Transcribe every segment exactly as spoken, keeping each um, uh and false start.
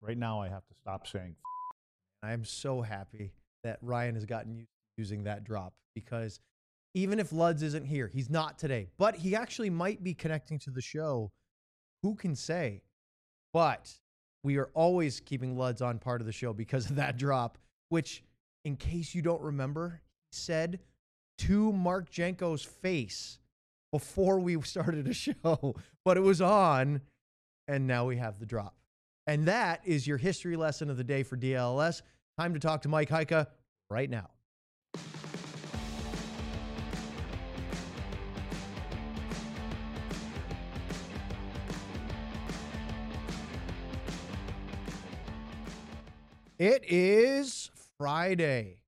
Right now, I have to stop saying. I'm so happy that Ryan has gotten used to using that drop, because even if Luds isn't here, he's not today, but he actually might be connecting to the show. Who can say? But we are always keeping Luds on part of the show because of that drop, which, in case you don't remember, he said to Mark Jenko's face before we started a show, but it was on, and now we have the drop. And that is your history lesson of the day for D L S. Time to talk to Mike Heika right now. It is Friday.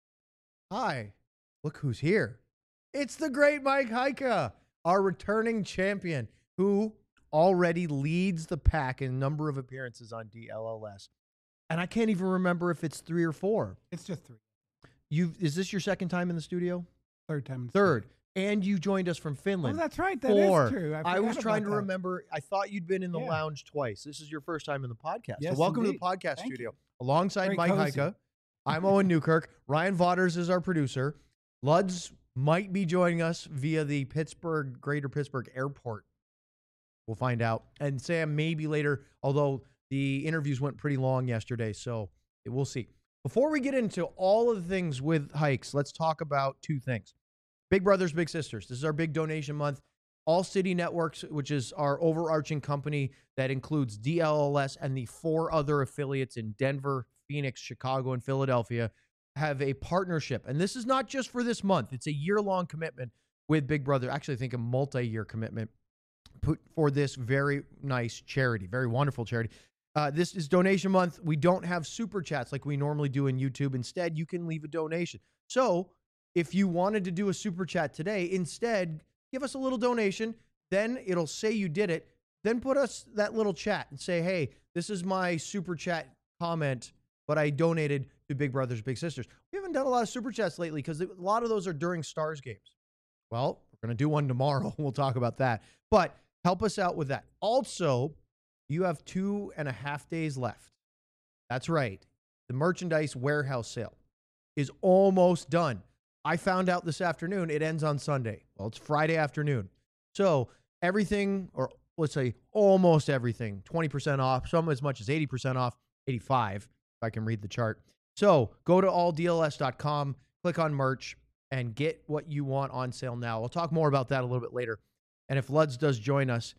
Hi, look who's here. It's the great Mike Heika, our returning champion, who already leads the pack in number of appearances on D L L S. And I can't even remember if it's three or four. It's just three. You Is this your second time in the studio? Third time in the Third. studio. And you joined us from Finland. Oh, that's right. That Four. is true. I, I was trying to that. remember. I thought you'd been in the Yeah. lounge twice. This is your first time in the podcast. Yes, so welcome indeed. to the podcast Thank studio. you. Alongside Very Mike cozy. Heika, I'm Owen Newkirk. Ryan Vaughters is our producer. Luds might be joining us via the Pittsburgh, Greater Pittsburgh Airport. We'll find out. And Sam maybe later, although the interviews went pretty long yesterday, so we'll see. Before we get into all of the things with hikes, let's talk about two things. Big Brothers, Big Sisters. This is our big donation month. All City Networks, which is our overarching company that includes D L L S and the four other affiliates in Denver, Phoenix, Chicago, and Philadelphia, have a partnership. And this is not just for this month. It's a year-long commitment with Big Brother. Actually, I think a multi-year commitment put for this very nice charity, very wonderful charity. Uh, this is donation month. We don't have super chats like we normally do in YouTube. Instead, you can leave a donation. So if you wanted to do a super chat today, instead, give us a little donation. Then it'll say you did it. Then put us that little chat and say, hey, this is my super chat comment, but I donated to Big Brothers Big Sisters. We haven't done a lot of super chats lately because a lot of those are during Stars games. Well, we're going to do one tomorrow. We'll talk about that. But help us out with that. Also, you have two and a half days left. That's right. The merchandise warehouse sale is almost done. I found out this afternoon it ends on Sunday. Well, it's Friday afternoon. So everything, or let's say almost everything, twenty percent off, some as much as eighty percent off, eighty-five, if I can read the chart. So go to all D L S dot com, click on merch, and get what you want on sale now. We'll talk more about that a little bit later. And if Luds does join us,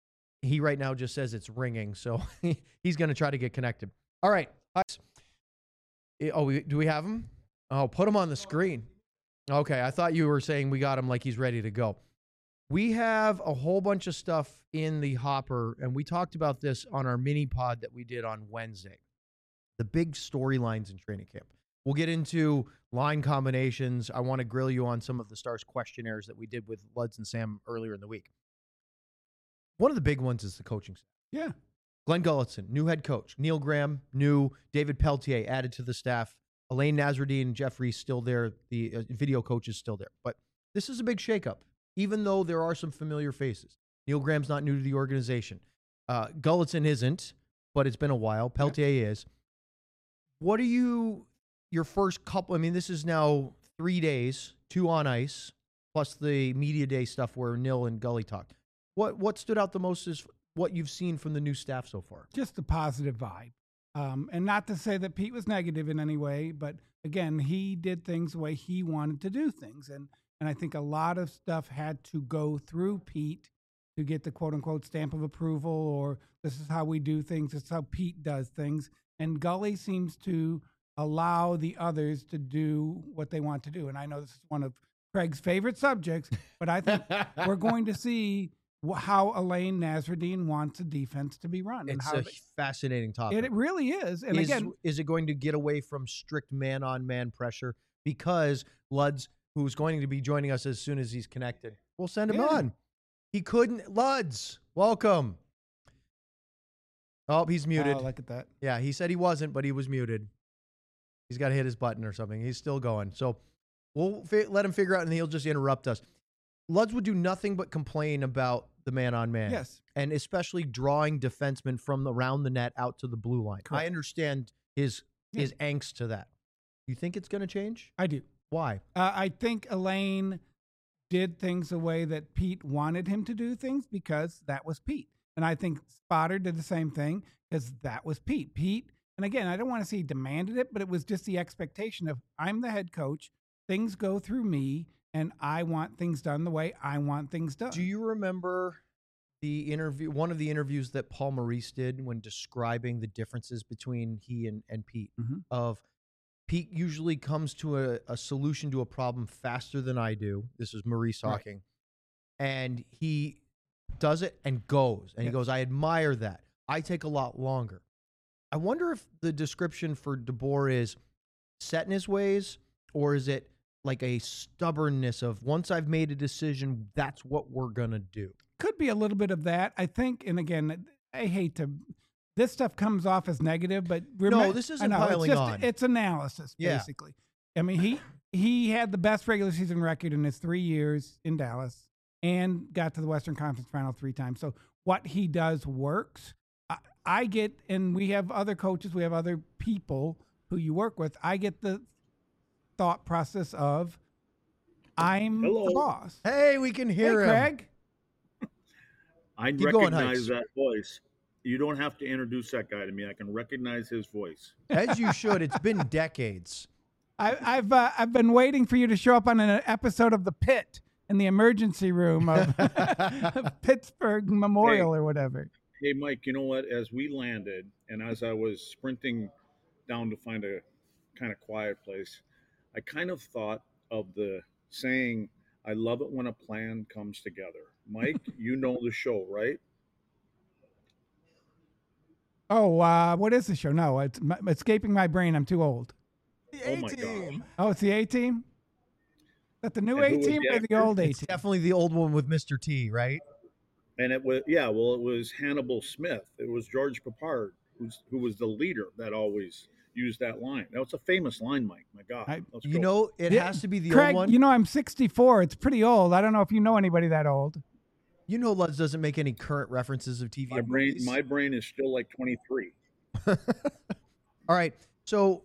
he right now just says it's ringing, so he's going to try to get connected. All right. Oh, we, do we have him? Oh, put him on the screen. Okay, I thought you were saying we got him like he's ready to go. We have a whole bunch of stuff in the hopper, and we talked about this on our mini pod that we did on Wednesday. The big storylines in training camp. We'll get into line combinations. I want to grill you on some of the Stars questionnaires that we did with Luds and Sam earlier in the week. One of the big ones is the coaching staff. Yeah. Glenn Gulutzan, new head coach. Neil Graham, new. David Peltier added to the staff. Elaine Nasruddin, Jeff Reese still there. The uh, video coach is still there. But this is a big shakeup, even though there are some familiar faces. Neil Graham's not new to the organization. Uh, Gulutzan isn't, but it's been a while. Peltier yeah. is. What are you, your first couple, I mean, this is now three days, two on ice, plus the media day stuff where Neil and Gully talked. What what stood out the most is what you've seen from the new staff so far? Just the positive vibe. Um, and not to say that Pete was negative in any way, but again, he did things the way he wanted to do things. And, and I think a lot of stuff had to go through Pete to get the quote unquote stamp of approval, or this is how we do things. This is how Pete does things. And Gully seems to allow the others to do what they want to do. And I know this is one of Craig's favorite subjects, but I think we're going to see how Elaine Nasruddin wants a defense to be run. It's and how a they, fascinating topic. It really is. And is, again, is it going to get away from strict man-on-man pressure? Because Luds, who's going to be joining us as soon as he's connected, we'll send him yeah. on. He couldn't. Luds, welcome. Oh, he's muted. Oh, look at that. Yeah, he said he wasn't, but he was muted. He's got to hit his button or something. He's still going. So we'll fi- let him figure out, and he'll just interrupt us. Luds would do nothing but complain about the man on man. Yes. And especially drawing defensemen from around the net out to the blue line. Correct. I understand his Yeah. his angst to that. You think it's going to change? I do. Why? Uh, I think Elaine did things the way that Pete wanted him to do things because that was Pete. And I think Spotter did the same thing because that was Pete. Pete, and again, I don't want to say he demanded it, but it was just the expectation of I'm the head coach, things go through me, and I want things done the way I want things done. Do you remember the interview, one of the interviews that Paul Maurice did when describing the differences between he and, and Pete? Mhm. Of Pete usually comes to a, a solution to a problem faster than I do. This is Maurice Right. talking. And he does it and goes. And he Yes. goes, I admire that. I take a lot longer. I wonder if the description for DeBoer is set in his ways, or is it like a stubbornness of once I've made a decision, that's what we're going to do? Could be a little bit of that, I think. And again, I hate to. This stuff comes off as negative, but No, this I isn't know, piling it's just, on. It's analysis, Yeah. basically. I mean, he he had the best regular season record in his three years in Dallas, and got to the Western Conference Final three times. So what he does works. I, I get, and we have other coaches, we have other people who you work with. I get the thought process of I'm Hello. the boss. Hey, we can hear hey, him. Craig. I Keep going, recognize Heights. that voice. You don't have to introduce that guy to me. I can recognize his voice. As you should. It's been decades. I, I've uh, I've been waiting for you to show up on an episode of The Pit in the emergency room of, of Pittsburgh Memorial or whatever. Hey, Mike, you know what? As we landed and as I was sprinting down to find a kind of quiet place, I kind of thought of the saying, I love it when a plan comes together. Mike, you know the show, right? Oh, uh, what is the show? No, it's m- escaping my brain. I'm too old. The Oh, my A-Team. gosh. Oh, it's the A Team. Is that the new And A who was Team the or the actor? old A It's Team? definitely the old one with Mister T, right? And it was, yeah, well, it was Hannibal Smith. It was George Papard, who's, who was the leader that always used that line. That was a famous line, Mike. My God. I- Let's You go. know, it Yeah, has to be the Craig, old one. you know I'm sixty-four. It's pretty old. I don't know if you know anybody that old. You know, Lutz doesn't make any current references of T V. my and brain, movies. my brain is still like twenty-three. All right. So,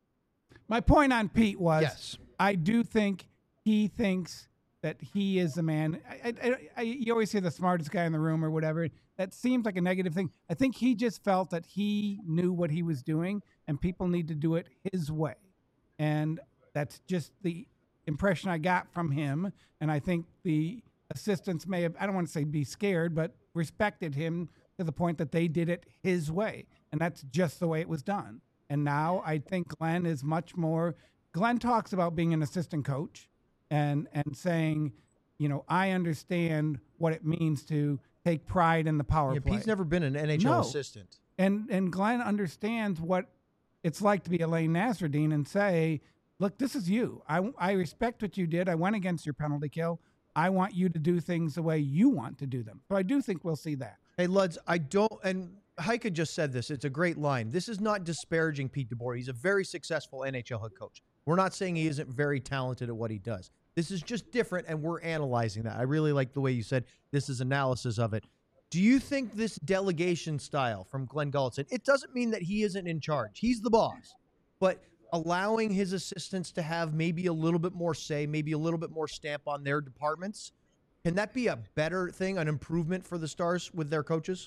My point on Pete was yes. I do think he thinks that he is the man. I, I, I, you always hear the smartest guy in the room or whatever. That seems like a negative thing. I think he just felt that he knew what he was doing and people need to do it his way. And that's just the impression I got from him. And I think the assistants may have, I don't want to say be scared, but respected him to the point that they did it his way. And that's just the way it was done. And now I think Glenn is much more, Glenn talks about being an assistant coach and, and saying, you know, I understand what it means to take pride in the power Yeah, play. Pete's never been an N H L No. assistant. And and Glenn understands what it's like to be Elaine Nasruddin and say, look, this is you. I, I respect what you did. I went against your penalty kill. I want you to do things the way you want to do them. So I do think we'll see that. Hey, Luds, I don't, and Heike just said this. It's a great line. This is not disparaging Pete DeBoer. He's a very successful N H L head coach. We're not saying he isn't very talented at what he does. This is just different, and we're analyzing that. I really like the way you said this is analysis of it. Do you think this delegation style from Glenn Gulletson, it doesn't mean that he isn't in charge. He's the boss. But allowing his assistants to have maybe a little bit more say, maybe a little bit more stamp on their departments, can that be a better thing, an improvement for the Stars with their coaches?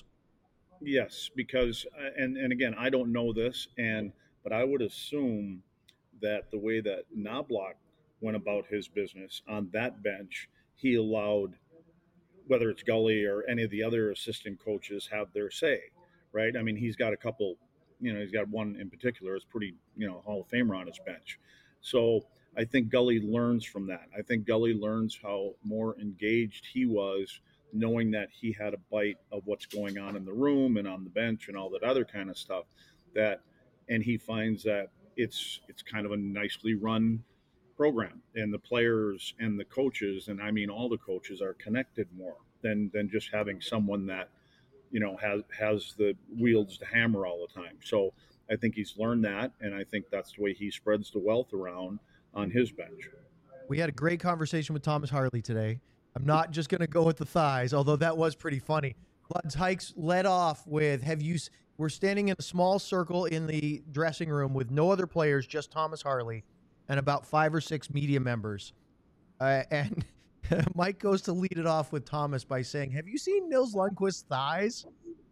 Yes, because uh, and and again, I don't know this, and but I would assume that the way that Knobloch went about his business on that bench, he allowed whether it's Gully or any of the other assistant coaches have their say, right? I mean, he's got a couple, you know, he's got one in particular, it's pretty, you know, Hall of Famer on his bench. So I think Gully learns from that. I think Gully learns how more engaged he was, knowing that he had a bite of what's going on in the room and on the bench and all that other kind of stuff. That, and he finds that it's it's kind of a nicely run program, and the players and the coaches, and I mean all the coaches, are connected more than than just having someone that, you know, has has the wields the hammer all the time. So I think he's learned that, and I think that's the way he spreads the wealth around on his bench. We had a great conversation with Thomas Harley today. I'm not just going to go with the thighs, although that was pretty funny. Luds Hikes led off with, have you, s- we're standing in a small circle in the dressing room with no other players, just Thomas Harley and about five or six media members. Uh, and Mike goes to lead it off with Thomas by saying, have you seen Nils Lundqvist's thighs?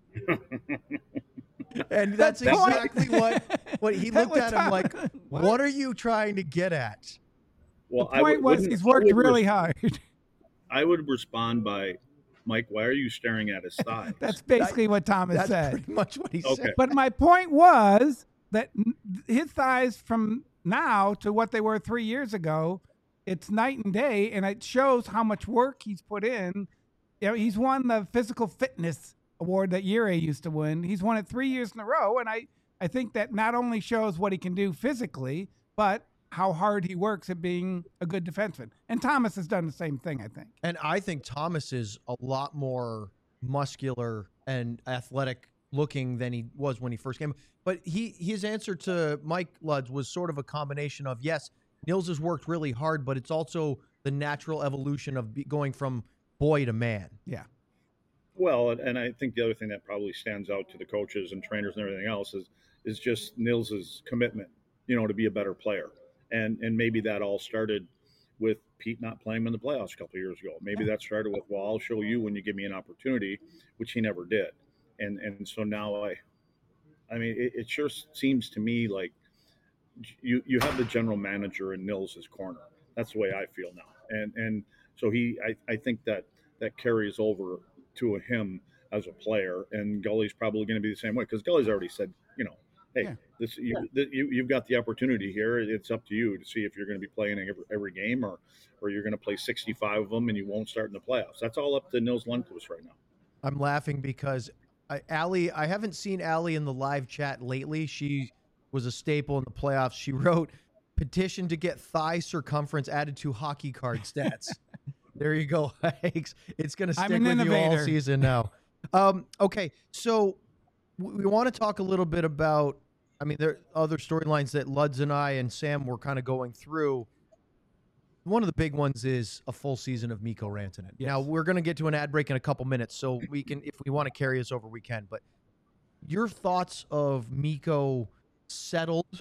And that's That point- exactly what, what he That looked was at him like, Thomas. what are you trying to get at? Well, The I point would- was wouldn't- he's I worked would really res- hard. I would respond by, Mike, why are you staring at his thighs? That's basically what Thomas That's said. pretty much what he Okay. said. But my point was that n- his thighs from now to what they were three years ago, it's night and day, and it shows how much work he's put in. You know, he's won the physical fitness award that Yuri used to win. He's won it three years in a row, and I, I think that not only shows what he can do physically, but how hard he works at being a good defenseman. And Thomas has done the same thing, I think. And I think Thomas is a lot more muscular and athletic looking than he was when he first came. But he his answer to Mike Luds was sort of a combination of, yes, Nils has worked really hard, but it's also the natural evolution of be, going from boy to man. Yeah. Well, and- and I think the other thing that probably stands out to the coaches and trainers and everything else is is just Nils's commitment, you know, to be a better player. And and maybe that all started with Pete not playing him in the playoffs a couple of years ago. Maybe that started with, well, I'll show you when you give me an opportunity, which he never did. And and so now I, I mean, it, it sure seems to me like you you have the general manager in Nils's corner. That's the way I feel now. And and so he, I, I think that that carries over to him as a player. And Gully's probably going to be the same way, because Gully's already said, you know, hey, Yeah. this you, th- you you've got the opportunity here. It's up to you to see if you're going to be playing every, every game, or or you're going to play sixty-five of them and you won't start in the playoffs. That's all up to Nils Lundqvist right now. I'm laughing because I, Allie, I haven't seen Allie in the live chat lately. She was a staple in the playoffs. She wrote, petition to get thigh circumference added to hockey card stats. There you go, Hikes. It's going to I'm stick an with you all innovator. season now. Um, okay, so w- we want to talk a little bit about, I mean, there are other storylines that Luds and I and Sam were kind of going through. One of the big ones is a full season of Mikko Rantanen. Yes. Now, we're going to get to an ad break in a couple minutes, so we can, if we want to carry us over, we can. But your thoughts of Mikko settled,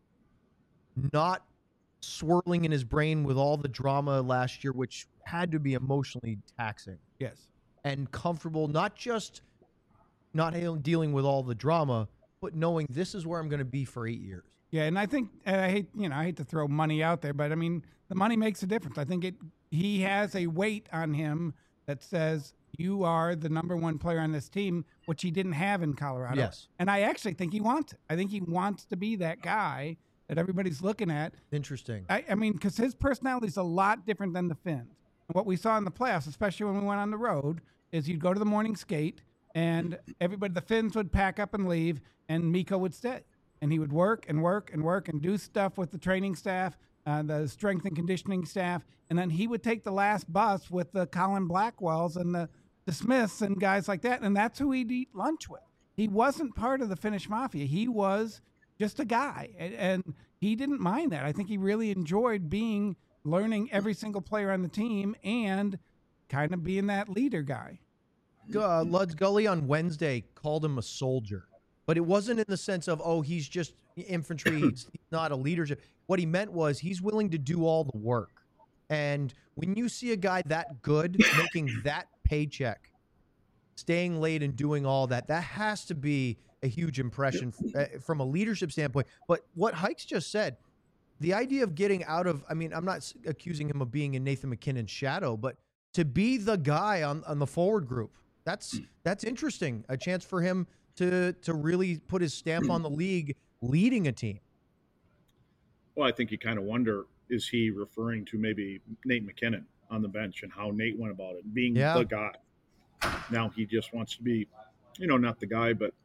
not swirling in his brain with all the drama last year, which had to be emotionally taxing, Yes. and comfortable, not just not ha- dealing with all the drama, but knowing this is where I'm going to be for eight years. Yeah, and I think and I hate you know I hate to throw money out there, but I mean the money makes a difference. I think it he has a weight on him that says you are the number one player on this team, which he didn't have in Colorado. Yes. And I actually think he wants it. I think he wants to be that guy that everybody's looking at. Interesting. I, I mean, because his personality is a lot different than the Finns. And what we saw in the playoffs, especially when we went on the road, is you'd go to the morning skate, and everybody, the Finns would pack up and leave, and Mikko would stay. And he would work and work and work and do stuff with the training staff, uh, the strength and conditioning staff, and then he would take the last bus with the Colin Blackwells and the, the Smiths and guys like that, and that's who he'd eat lunch with. He wasn't part of the Finnish mafia. He was just a guy, and, and he didn't mind that. I think he really enjoyed being, learning every single player on the team and kind of being that leader guy. Uh, Luds Gully on Wednesday called him a soldier, but it wasn't in the sense of, oh, he's just infantry, he's not a leadership. What he meant was he's willing to do all the work. And when you see a guy that good making that paycheck, staying late and doing all that, that has to be a huge impression uh, from a leadership standpoint. But what Hikes just said, the idea of getting out of, I mean, I'm not s- accusing him of being in Nathan McKinnon's shadow, but to be the guy on, on the forward group, that's that's interesting. A chance for him to to really put his stamp on the league, leading a team. Well, I think you kind of wonder, is he referring to maybe Nate McKinnon on the bench and how Nate went about it, being Yeah. the guy? Now he just wants to be, you know, not the guy, but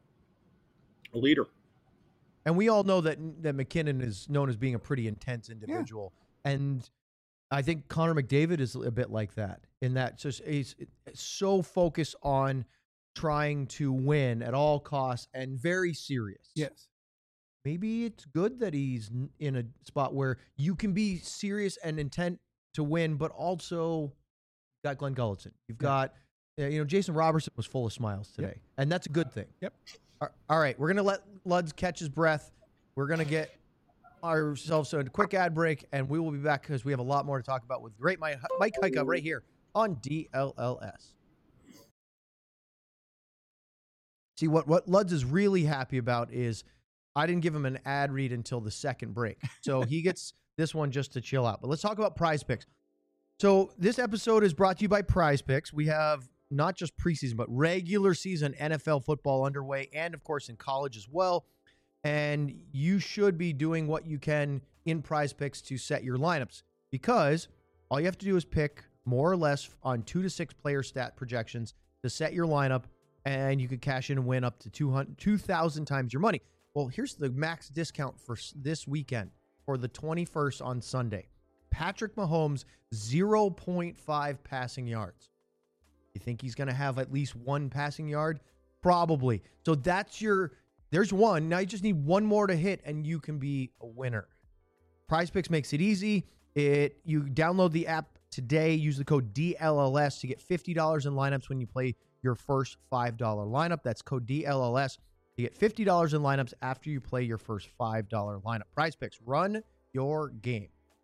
a leader. And we all know that that McKinnon is known as being a pretty intense individual. And I think Connor McDavid is a bit like that, in that just he's so focused on trying to win at all costs and very serious. Yes. Maybe it's good that he's n- in a spot where you can be serious and intent to win, but also You've got Glenn Gulletson. You've got, uh, you know, Jason Robertson was full of smiles today, Yep. and that's a good thing. Yep. All right, we're gonna let Luds catch his breath. We're gonna get ourselves a quick ad break, and we will be back because we have a lot more to talk about with great Mike Mike Heika right here on D L L S. See, what, what Luds is really happy about is I didn't give him an ad read until the second break. So he gets this one just to chill out. But let's talk about Prize Picks. So this episode is brought to you by Prize Picks. We have not just preseason, but regular season N F L football underway, and, of course, in college as well. And you should be doing what you can in Prize Picks to set your lineups, because all you have to do is pick more or less on two to six player stat projections to set your lineup, and you could cash in and win up to two thousand times your money. Well, here's the max discount for this weekend for the twenty-first on Sunday. Patrick Mahomes, zero point five passing yards. You think he's going to have at least one passing yard? Probably. So that's your, there's one. Now you just need one more to hit and you can be a winner. Prize Picks makes it easy. It You download the app today. Use the code D L L S to get fifty dollars in lineups when you play your first five dollar lineup. That's code D L L S. You get fifty dollars in lineups after you play your first five dollar lineup. Prize Picks, run your game.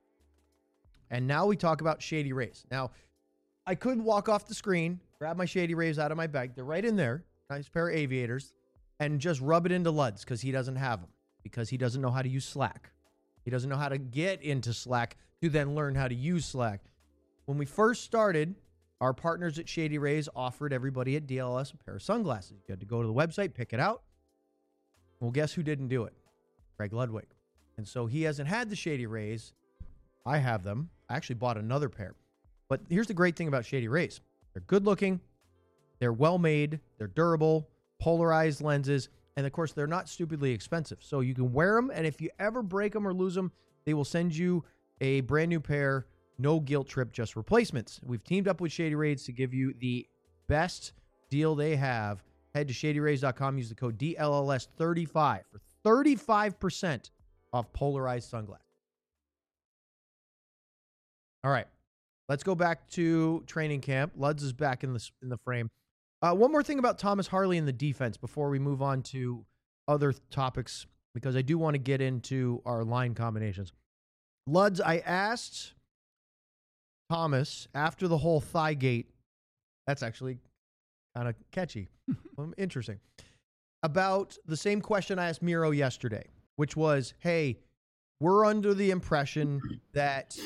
And now we talk about Shady Rays. Now, I could walk off the screen, grab my Shady Rays out of my bag. They're right in there. Nice pair of aviators. And just rub it into Luds because he doesn't have them. Because he doesn't know how to use Slack. He doesn't know how to get into Slack to then learn how to use Slack. When we first started, our partners at Shady Rays offered everybody at D L L S a pair of sunglasses. You had to go to the website, pick it out. Well, guess who didn't do it? Greg Ludwig. And so he hasn't had the Shady Rays. I have them. I actually bought another pair. But here's the great thing about Shady Rays. They're good looking. They're well made. They're durable, polarized lenses. And of course, they're not stupidly expensive. So you can wear them. And if you ever break them or lose them, they will send you a brand new pair. No guilt trip, just replacements. We've teamed up with Shady Rays to give you the best deal they have. Head to shady rays dot com. Use the code D L L S thirty-five for thirty-five percent off polarized sunglasses. All right. Let's go back to training camp. Luds is back in the, in the frame. Uh, one more thing about Thomas Harley and the defense before we move on to other topics, because I do want to get into our line combinations. Luds, I asked Thomas after the whole thigh gate, that's actually kind of catchy, interesting, about the same question I asked Miro yesterday, which was, hey, we're under the impression that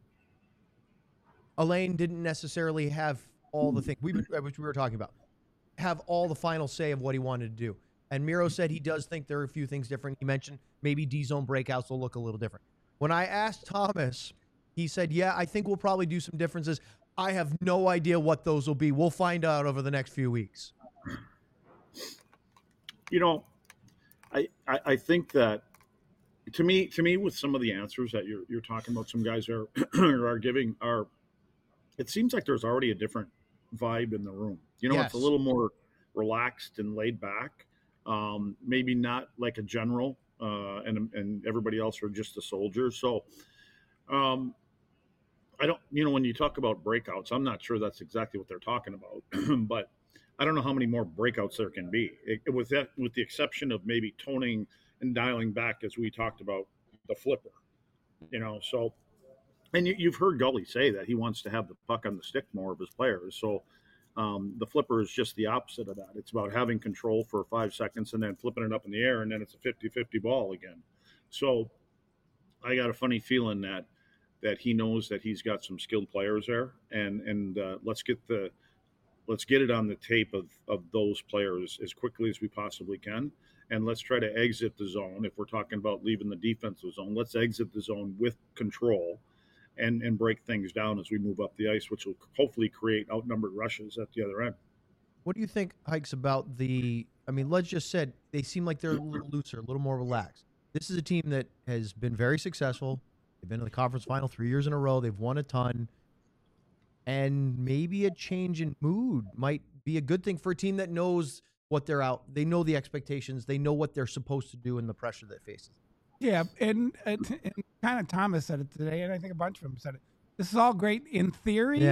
Elaine didn't necessarily have all the things, we, which we were talking about, have all the final say of what he wanted to do. And Miro said he does think there are a few things different. He mentioned maybe D-zone breakouts will look a little different. When I asked Thomas, he said, yeah, I think we'll probably do some differences. I have no idea what those will be. We'll find out over the next few weeks. You know, I, I, I think that to me, to me, with some of the answers that you're, you're talking about, some guys are, are giving are, it seems like there's already a different vibe in the room. You know, Yes. It's a little more relaxed and laid back. Um, maybe not like a general uh, and, and everybody else are just a soldier. So, um, I don't, you know, when you talk about breakouts, I'm not sure that's exactly what they're talking about, but I don't know how many more breakouts there can be. It, with that, with the exception of maybe toning and dialing back, as we talked about the flipper, you know. So, and you, you've heard Gully say that he wants to have the puck on the stick more of his players. So, um, the flipper is just the opposite of that. It's about having control for five seconds and then flipping it up in the air, and then it's a fifty-fifty ball again. So, I got a funny feeling that. that he knows that he's got some skilled players there, and and uh, let's get the let's get it on the tape of of those players as quickly as we possibly can, and let's try to exit the zone. If we're talking about leaving the defensive zone, let's exit the zone with control, and and break things down as we move up the ice, which will hopefully create outnumbered rushes at the other end. What do you think, Hikes, about the, I mean, Luds just said they seem like they're a little looser, a little more relaxed. This is a team that has been very successful. They've been to the conference final three years in a row. They've won a ton. And maybe a change in mood might be a good thing for a team that knows what they're out. They know the expectations. They know what they're supposed to do and the pressure that faces. Yeah, and, and, and kind of Thomas said it today, and I think a bunch of them said it. This is all great in theory, Yeah.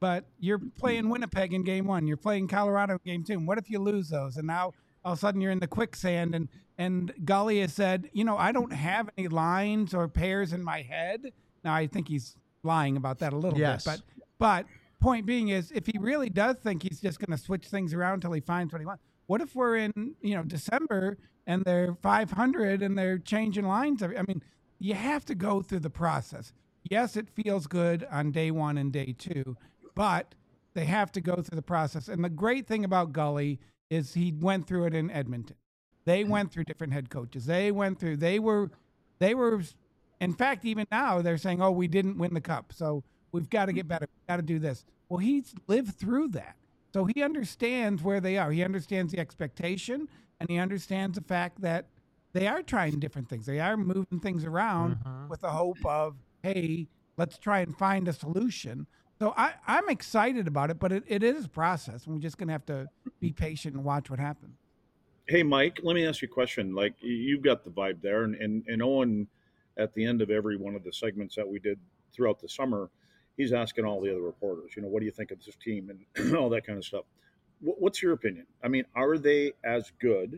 but you're playing Winnipeg in game one. You're playing Colorado in game two. And what if you lose those? And now all of a sudden you're in the quicksand. And, and Gully has said, you know, I don't have any lines or pairs in my head. Now, I think he's lying about that a little Yes. bit. But, but point being is, if he really does think he's just going to switch things around until he finds what he wants, what if we're in, you know, December and they're five hundred and they're changing lines? I mean, you have to go through the process. Yes, it feels good on day one and day two, but they have to go through the process. And the great thing about Gully is he went through it in Edmonton. They went through different head coaches. They went through, they were, they were, in fact, even now they're saying, oh, we didn't win the cup, so we've got to get better. We've got to do this. Well, he's lived through that. So he understands where they are. He understands the expectation, and he understands the fact that they are trying different things. They are moving things around Mhm. with the hope of, hey, let's try and find a solution. So I, I'm excited about it, but it, it is a process, and we're just going to have to be patient and watch what happens. Hey, Mike, let me ask you a question. Like, you've got the vibe there, and, and, and Owen, at the end of every one of the segments that we did throughout the summer, he's asking all the other reporters, you know, what do you think of this team and all that kind of stuff. What, what's your opinion? I mean, are they as good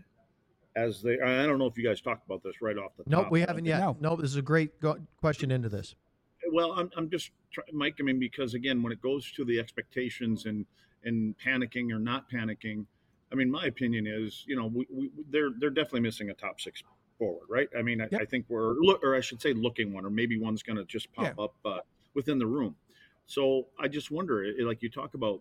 as they? I don't know if you guys talked about this right off the top. Nope, we but I haven't think- yet. No. Nope, this is a great go- question into this. Well, I'm, I'm just try, Mike. I mean, because again, when it goes to the expectations and and panicking or not panicking, I mean, my opinion is, you know, we, we they're they're definitely missing a top six forward, right? I mean, I, Yep. I think we're look, or I should say, looking one, or maybe one's going to just pop Yeah. up uh, within the room. So I just wonder, it- like you talk about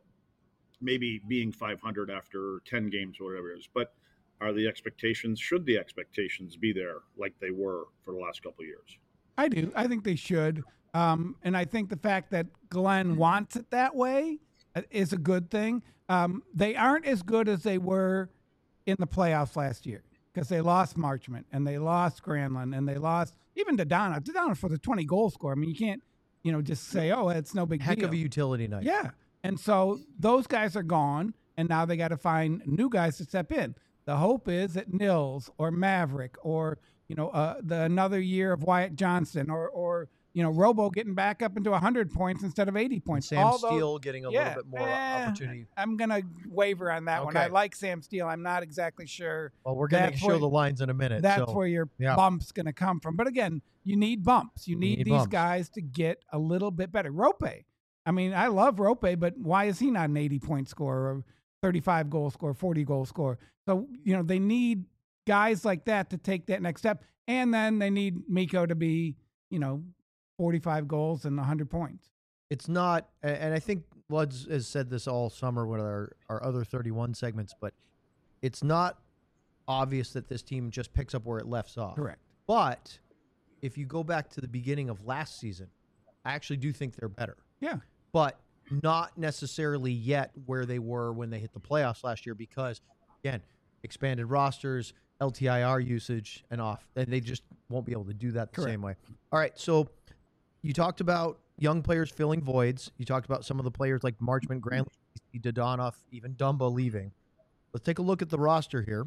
maybe being five hundred after ten games or whatever it is, but are the expectations? Should the expectations be there like they were for the last couple of years? I do. I think they should. Um, and I think the fact that Glenn wants it that way uh, is a good thing. Um, they aren't as good as they were in the playoffs last year because they lost Marchment and they lost Granlund and they lost even Dodonna. Dodonna for the twenty goal score. I mean, you can't, you know, just say, oh, it's no big Heck deal. of a utility night. Yeah. And so those guys are gone, and now they got to find new guys to step in. The hope is that Nils or Maverick or, you know, uh, the another year of Wyatt Johnston or, or you know, Robo getting back up into one hundred points instead of eighty And points. Sam All those- Steele getting a yeah, little bit more eh, opportunity. I'm going to waver on that one. I Okay. like Sam Steele. I'm not exactly sure Well, we're going to that's show where- the lines in a minute. that's so. where your yeah. bump's going to come from. But again, you need bumps. You need, need these bumps. guys to get a little bit better. Rope, I mean, I love Rope, but why is he not an eighty point scorer or thirty-five goal scorer, forty goal scorer? So, you know, they need guys like that to take that next step. And then they need Mikko to be, you know, forty-five goals and one hundred points. It's not, a- and I think Luds has said this all summer with our, our other thirty-one segments, but it's not obvious that this team just picks up where it left off. Correct. But if you go back to the beginning of last season, I actually do think they're better, Yeah. but not necessarily yet where they were when they hit the playoffs last year because, again, expanded rosters, L T I R usage, and off. And they just won't be able to do that the Correct. same way. All right, so you talked about young players filling voids. You talked about some of the players like Marchment, Granlund, Dodonov, even Dumba leaving. Let's take a look at the roster here.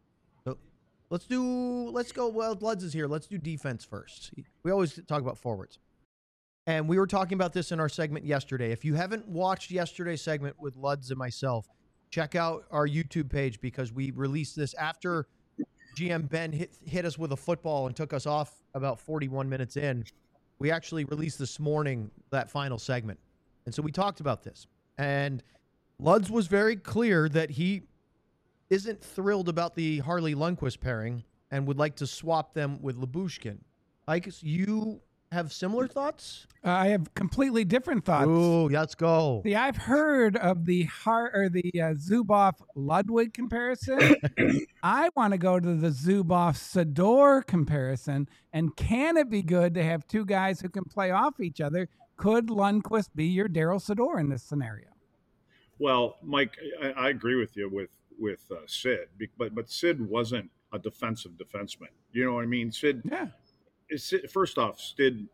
So let's do, let's go, well, Luds is here. Let's do defense first. We always talk about forwards. And we were talking about this in our segment yesterday. If you haven't watched yesterday's segment with Luds and myself, check out our YouTube page because we released this after G M Ben hit, hit us with a football and took us off about forty-one minutes in. We actually released this morning that final segment. And so we talked about this. And Luds was very clear that he isn't thrilled about the Harley Lundqvist pairing and would like to swap them with Lyubushkin. Ike, you have similar thoughts? Uh, I have completely different thoughts. Ooh, let's go. See, I've heard of the Har or the uh, Zubov Ludwig comparison. I want to go to the Zubov Sador comparison. And can it be good to have two guys who can play off each other? Could Lundqvist be your Daryl Sador in this scenario? Well, Mike, I, I agree with you with with uh, Sid, be- but but Sid wasn't a defensive defenseman. You know what I mean? Sid. Yeah. Sid first off, Sid.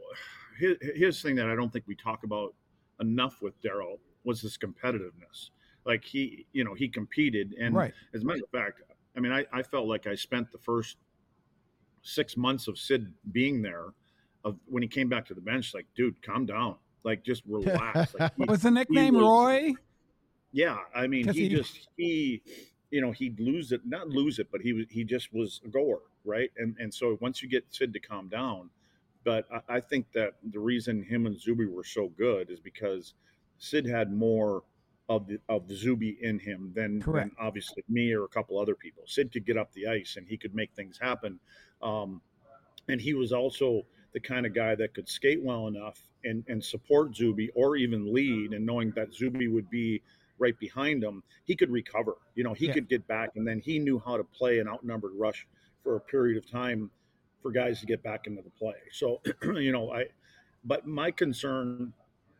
His, his thing that I don't think we talk about enough with Daryl was his competitiveness. Like he, you know, he competed, and Right. as a matter of fact, I mean, I, I felt like I spent the first six months of Sid being there, of when he came back to the bench, like, dude, calm down. like just relax. Like he, What was the nickname, was, Roy? Yeah, I mean, he, he just he, you know, he'd lose it, not lose it, but he was he just was a goer, right? And and so once you get Sid to calm down, but I, I think that the reason him and Zuby were so good is because Sid had more of the of the Zuby in him than Correct. than obviously me or a couple other people. Sid could get up the ice and he could make things happen, um, and he was also the kind of guy that could skate well enough and and support Zuby or even lead, and knowing that Zuby would be right behind him, he could recover. You know, he Yeah. could get back, and then he knew how to play an outnumbered rush for a period of time for guys to get back into the play. So, you know, I, but my concern,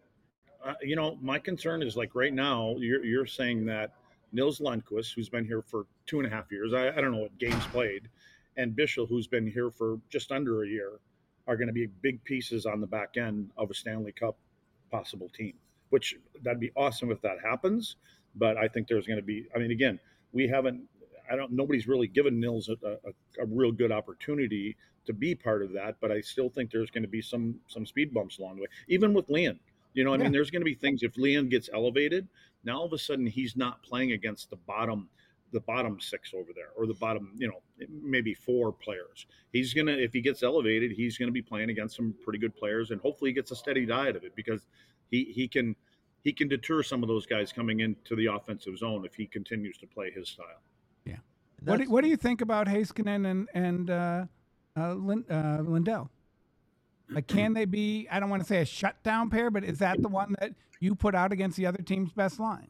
uh, you know, my concern is like right now, you're, you're saying that Nils Lundqvist, who's been here for two and a half years, I, I don't know what games played, and Bischel, who's been here for just under a year, are going to be big pieces on the back end of a Stanley Cup possible team, which that'd be awesome if that happens. But I think there's going to be, I mean, again, we haven't, I don't, nobody's really given Nils a, a, a real good opportunity to be part of that. But I still think there's going to be some, some speed bumps along the way, even with Leon. You know, I Yeah. mean, there's going to be things if Leon gets elevated, now all of a sudden he's not playing against the bottom, the bottom six over there, or the bottom, you know, maybe four players. He's going to, if he gets elevated, he's going to be playing against some pretty good players, and hopefully he gets a steady diet of it, because he, he can, he can deter some of those guys coming into the offensive zone if he continues to play his style. Yeah. What do, what do you think about Heiskanen and, and uh, uh, Lind, uh, Lindell? Like, can they be, I don't want to say a shutdown pair, but is that the one that you put out against the other team's best line?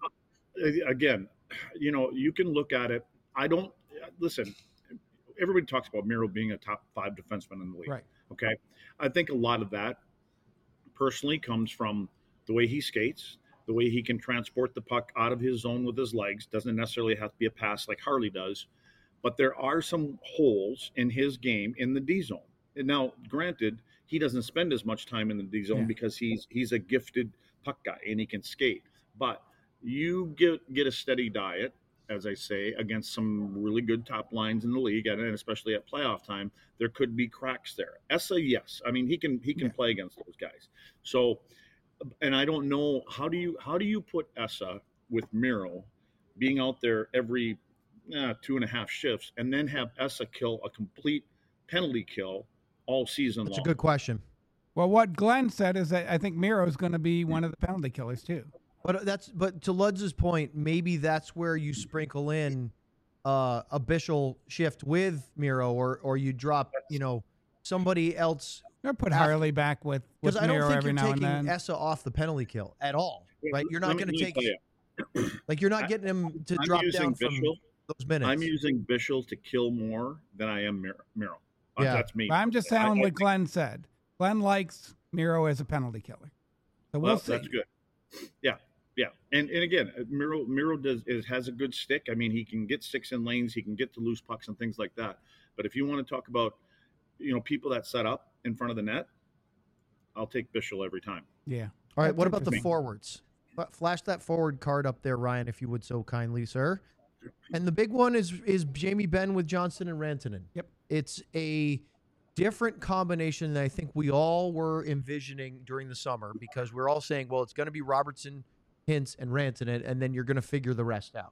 Again, you know, you can look at it. I don't, listen, everybody talks about Miro being a top five defenseman in the league. Right. Okay. I think a lot of that personally comes from the way he skates, the way he can transport the puck out of his zone with his legs. Doesn't necessarily have to be a pass like Harley does, but there are some holes in his game in the D zone. And now, granted, he doesn't spend as much time in the D zone Yeah. because he's he's a gifted puck guy and he can skate. But you get get a steady diet, as I say, against some really good top lines in the league, and especially at playoff time, there could be cracks there. Essa, yes, I mean he can he can Yeah. play against those guys. So, and I don't know how do you how do you put Essa with Miro being out there every uh, two and a half shifts, and then have Essa kill a complete penalty kill all season That's long? a good question. Well, what Glenn said is that I think Miro is going to be one of the penalty killers too. But that's but to Ludz's point, maybe that's where you sprinkle in uh, a Bischel shift with Miro, or or you drop, you know, somebody else, Or put After- Harley back with, with because I don't Miro think every you're now and taking then. Essa off the penalty kill at all, right? You're not Let me- going to let me take tell you, like you're not getting him to I'm drop using down from Bischel. those minutes. I'm using Bischel to kill more than I am Miro. Miro. Uh, Yeah. That's me. But I'm just saying I- I what think- Glenn said. Glenn likes Miro as a penalty killer. So we'll Well, see. that's good. Yeah, yeah, and and again, Miro Miro does is, has a good stick. I mean, he can get sticks in lanes, he can get to loose pucks and things like that. But if you want to talk about, you know, people that set up in front of the net, I'll take Bischel every time. Yeah. All right, That's what about the interesting. forwards? F- Flash that forward card up there, Ryan, if you would so kindly, sir. And the big one is is Jamie Benn with Johnston and Rantanen. Yep. It's a different combination than I think we all were envisioning during the summer, because we're all saying, well, it's going to be Robertson, Hintz, and Rantanen, and then you're going to figure the rest out.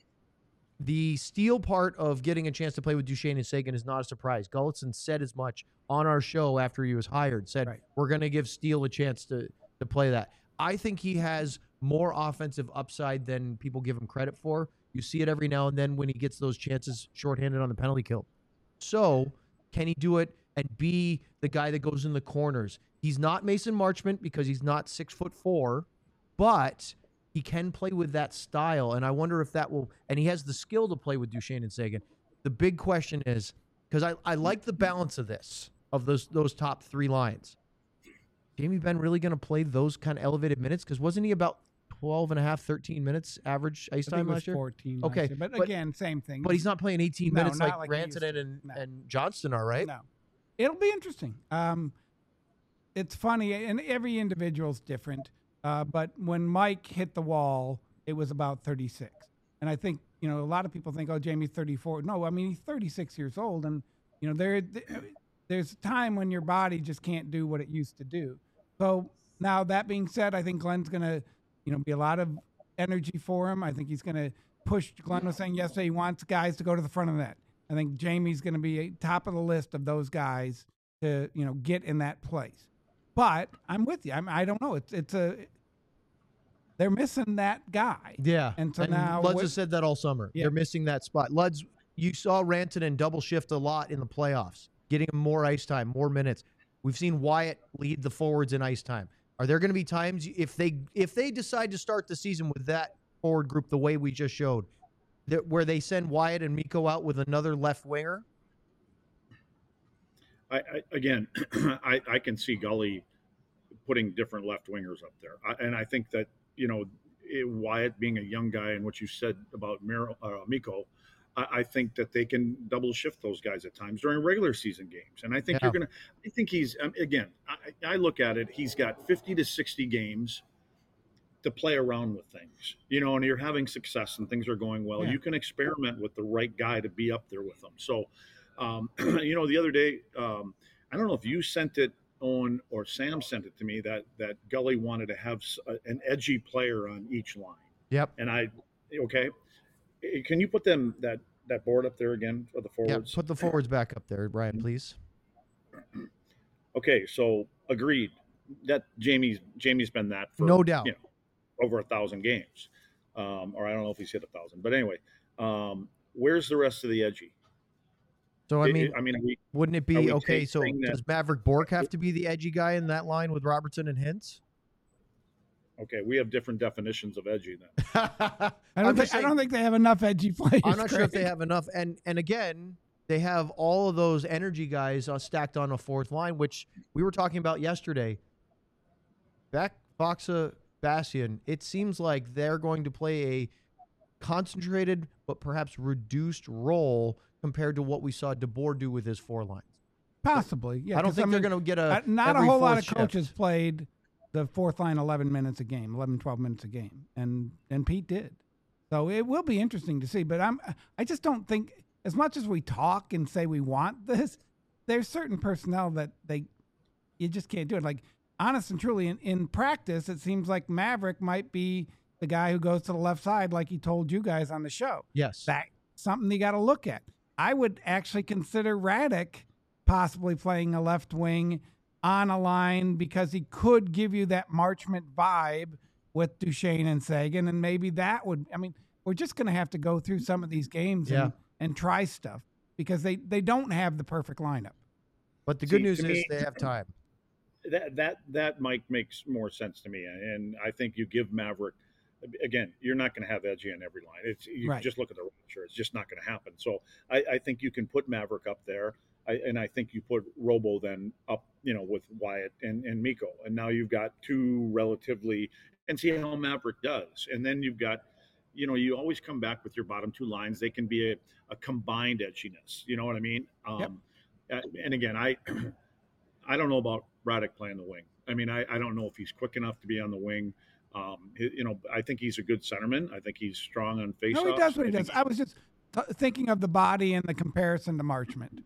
The Steele part of getting a chance to play with Duchesne and Sagan is not a surprise. Gulletson said as much on our show after he was hired, said, Right. we're going to give Steele a chance to, to play that. I think he has more offensive upside than people give him credit for. You see it every now and then when he gets those chances shorthanded on the penalty kill. So can he do it and be the guy that goes in the corners? He's not Mason Marchment because he's not six foot four, but he can play with that style. And I wonder if that will, and he has the skill to play with Duchesne and Sagan. The big question is, because I, I like the balance of this, of those those top three lines. Jamie Benn really going to play those kind of elevated minutes? Because wasn't he about twelve and a half, thirteen minutes average ice I think time it was last year? fourteen. Okay, last year. But, but- again, same thing. But he's not playing eighteen No, minutes not like, like he used Rantanen to. and, No. and Johnston are, right? No, it'll be interesting. Um, it's funny, and every individual's different. Uh, but when Mike hit the wall, it was about thirty-six, and I think you know a lot of people think, "Oh, Jamie's thirty-four." No, I mean he's thirty-six years old, and you know there there's a time when your body just can't do what it used to do. So Now, that being said, I think Glenn's going to, you know, be a lot of energy for him. I think he's going to push. Glenn was saying yesterday he wants guys to go to the front of the net. I think Jamie's going to be top of the list of those guys to, you know, get in that place. But I'm with you. I'm, I don't know. It's it's a they're missing that guy. Yeah. And so and now Luds what- has said that all summer. Yeah. They're missing that spot. Luds, you saw Rantanen double shift a lot in the playoffs, getting him more ice time, more minutes. We've seen Wyatt lead the forwards in ice time. Are there going to be times if they if they decide to start the season with that forward group the way we just showed, that where they send Wyatt and Mikko out with another left winger? I, I again, I, I can see Gully putting different left wingers up there, I, and I think that you know it, Wyatt being a young guy and what you said about Miro, uh, Mikko, I, I think that they can double shift those guys at times during regular season games, and I think Yeah. you're gonna. I think he's um, again. I, I look at it. He's got fifty to sixty games to play around with things, you know, and you're having success and things are going well. Yeah. You can experiment with the right guy to be up there with them. So, um, you know, the other day, um, I don't know if you sent it on or Sam sent it to me that that Gully wanted to have s- a- an edgy player on each line. Yep. And I, okay, Eh, can you put them that that board up there again for the Yeah. forwards? Put the forwards back up there, Brian, please. Okay, so agreed that Jamie's Jamie's been that for No doubt. you know, over a thousand games, um, or I don't know if he's hit a thousand, but anyway, um, where's the rest of the edgy? So I I mean, I mean, are we, wouldn't it are be we okay? So saying that- does Maverick Bork have to be the edgy guy in that line with Robertson and Hintz? okay, we have different definitions of edgy then. I don't, I'm think, just I saying- don't think they have enough edgy players. I'm not sure if Craig. they have enough. And and again, they have all of those energy guys uh, stacked on a fourth line, which we were talking about yesterday. Beck, Foxa, Bastian, it seems like they're going to play a concentrated but perhaps reduced role compared to what we saw DeBoer do with his four lines. Possibly. Yeah, I don't 'cause, think mean, they're going to get a uh, not a every whole lot fourth of shift. coaches played the fourth line eleven minutes a game, eleven, twelve minutes a game, and and Pete did. So it will be interesting to see. But I'm I just don't think, as much as we talk and say we want this, there's certain personnel that they you just can't do it. Like, honest and truly, in, in practice, it seems like Maverick might be the guy who goes to the left side, like he told you guys on the show. Yes. That something you got to look at. I would actually consider Radek possibly playing a left wing on a line because he could give you that Marchment vibe with Duchesne and Sagan, and maybe that would. I mean, we're just going to have to go through some of these games Yeah. and, and try stuff because they they don't have the perfect lineup. But the good See, news to is me- they have time. that that that Mike makes more sense to me, and I think you give Maverick again. You're not going to have edgy on every line. It's you Right. just look at the roster; it's just not going to happen. So I, I think you can put Maverick up there, I, and I think you put Robo then up, you know, with Wyatt and and Mikko, and now you've got two relatively, and see how Maverick does, and then you've got. You know, you always come back with your bottom two lines. They can be a, a combined edginess. You know what I mean? Um, uh, and again, I I don't know about Braddock playing the wing. I mean, I, I don't know if he's quick enough to be on the wing. Um, he- you know, I think he's a good centerman. I think he's strong on faceoffs. No, he does what he I does. think I was just t- thinking of the body and the comparison to Marchment.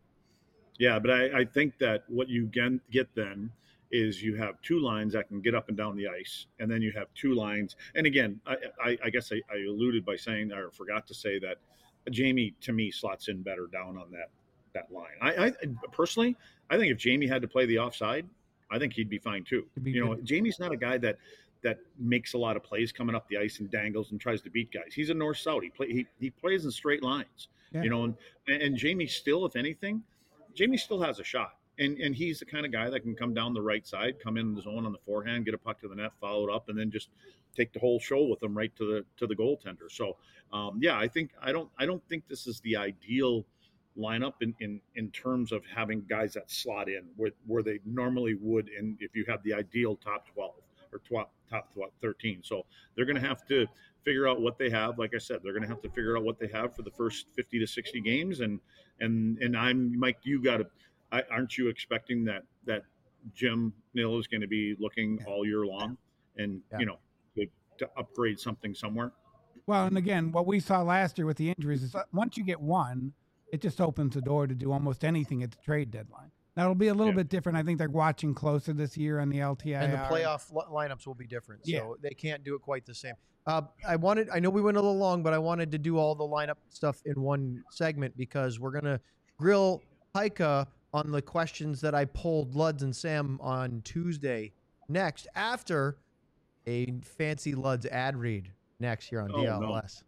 Yeah, but I, I think that what you gen, get then is you have two lines that can get up and down the ice, and then you have two lines. And again, I, I, I guess I, I alluded by saying or forgot to say that Jamie to me slots in better down on that that line. I, I personally, I think if Jamie had to play the offside, I think he'd be fine too. He'd be You know, good. Jamie's not a guy that that makes a lot of plays coming up the ice and dangles and tries to beat guys. He's a north south. He play he, he plays in straight lines. Yeah. You know, and and Jamie still, if anything, Jamie still has a shot. And and he's the kind of guy that can come down the right side, come in the zone on the forehand, get a puck to the net, follow it up, and then just take the whole show with him right to the to the goaltender. So um, yeah, I think I don't I don't think this is the ideal lineup in, in, in terms of having guys that slot in where, where they normally would in if you have the ideal top twelve or top top thirteen. So they're going to have to figure out what they have. Like I said, they're going to have to figure out what they have for the first fifty to sixty games. And and and I'm Mike, you got to. I, aren't you expecting that that Jim Nill is going to be looking all year long, and Yeah. you know to, to upgrade something somewhere? Well, and again, what we saw last year with the injuries is that once you get one, it just opens the door to do almost anything at the trade deadline. That'll be a little Yeah. bit different. I think they're watching closer this year on the L T I R. And the playoff li- lineups will be different, so Yeah. they can't do it quite the same. Uh, I wanted, I know we went a little long, but I wanted to do all the lineup stuff in one segment because we're gonna grill Heika on the questions that I polled Luds and Sam on Tuesday. Next, after a fancy Luds ad read next here on Oh, D L S.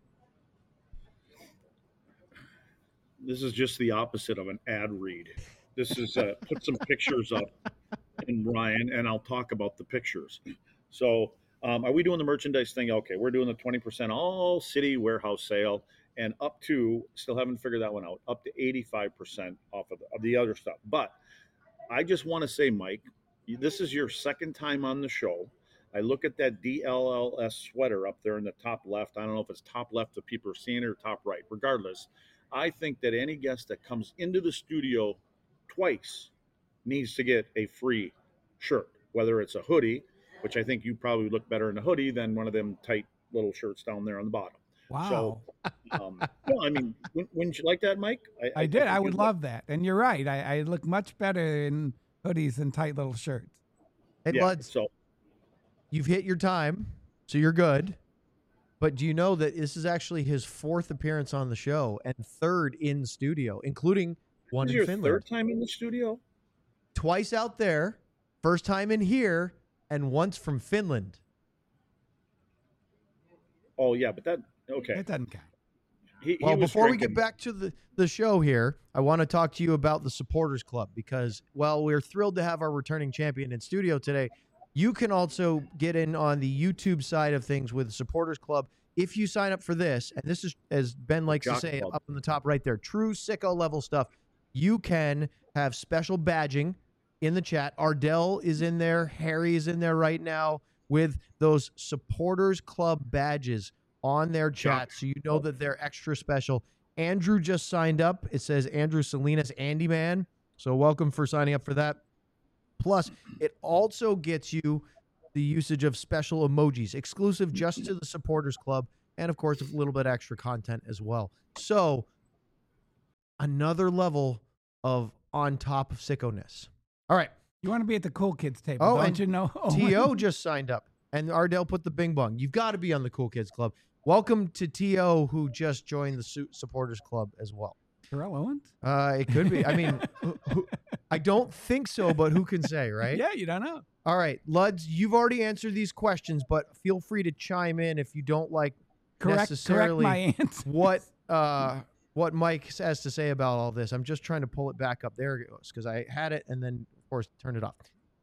This is just the opposite of an ad read. This is uh, put some pictures up in Ryan, and I'll talk about the pictures. So, um, are we doing the merchandise thing? Okay, we're doing the twenty percent all city warehouse sale, and up to, still haven't figured that one out, up to eighty-five percent off of the, of the other stuff. But I just want to say, Mike, this is your second time on the show. I look at that D L L S sweater up there in the top left. I don't know if it's top left if people are seeing it or top right. Regardless, I think that any guest that comes into the studio twice needs to get a free shirt, whether it's a hoodie, which I think you probably look better in a hoodie than one of them tight little shirts down there on the bottom. Wow. So, um, no, I mean, wouldn't, wouldn't you like that, Mike? I, I did. think I you'd would look- love that. And you're right. I, I look much better in hoodies than tight little shirts. Hey, Yeah, Luds, so you've hit your time, so you're good. But do you know that this is actually his fourth appearance on the show and third in studio, including one this is in your Finland? third time in the studio? Twice out there, first time in here, and once from Finland. Oh, yeah, but that, okay. It doesn't count. He, he Well, was before we drinking- get back to the, the show here, I want to talk to you about the Supporters Club because, well, we're thrilled to have our returning champion in studio today. You can also get in on the YouTube side of things with the Supporters Club if you sign up for this. And this is, as Ben likes to Jock say Club. up on the top right there, true sicko level stuff. You can have special badging in the chat. Ardell is in there. Harry is in there right now with those Supporters Club badges on their chat, so you know that they're extra special. Andrew just signed up. It says Andrew Salinas, Andy Man. So welcome for signing up for that. Plus, it also gets you the usage of special emojis, exclusive just to the Supporters Club, and of course, a little bit extra content as well. So, another level of on top of sickoness. All right. You want to be at the cool kids table, Oh, don't and you know? T O just signed up, and Ardell put the bing bong. You've got to be on the Cool Kids Club. Welcome to T O, who just joined the Su- Supporters Club as well. Terrell Owens? Uh, it could be. I mean, who, who, I don't think so, but who can say, right? Yeah, you don't know. All right, Luds, you've already answered these questions, but feel free to chime in if you don't like Correct, correct necessarily my answer. what uh, what Mike has to say about all this. I'm just trying to pull it back up. There it goes, because I had it and then, of course, turned it off.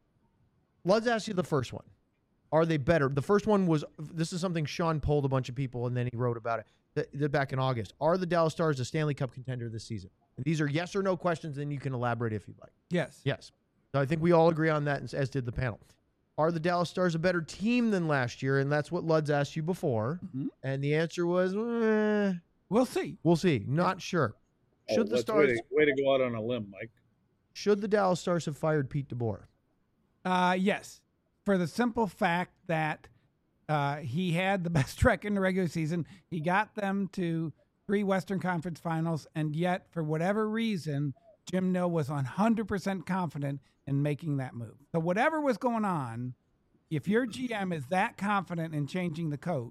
Let's ask you the first one. Are they better? The first one was, this is something Sean polled a bunch of people, and then he wrote about it th- th- back in August. Are the Dallas Stars a Stanley Cup contender this season? And these are yes or no questions, and you can elaborate if you'd like. Yes. Yes. So I think we all agree on that, as- as did the panel. Are the Dallas Stars a better team than last year? And that's what Luds asked you before. Mhm. And the answer was, eh, We'll see. we'll see. Not sure. Oh, Should the let's- Stars, way to, way to go out on a limb, Mike. should the Dallas Stars have fired Pete DeBoer? Uh, yes, for the simple fact that uh, he had the best record in the regular season. He got them to three Western Conference Finals, and yet, for whatever reason, Jim Nill was one hundred percent confident in making that move. So whatever was going on, if your G M is that confident in changing the coach,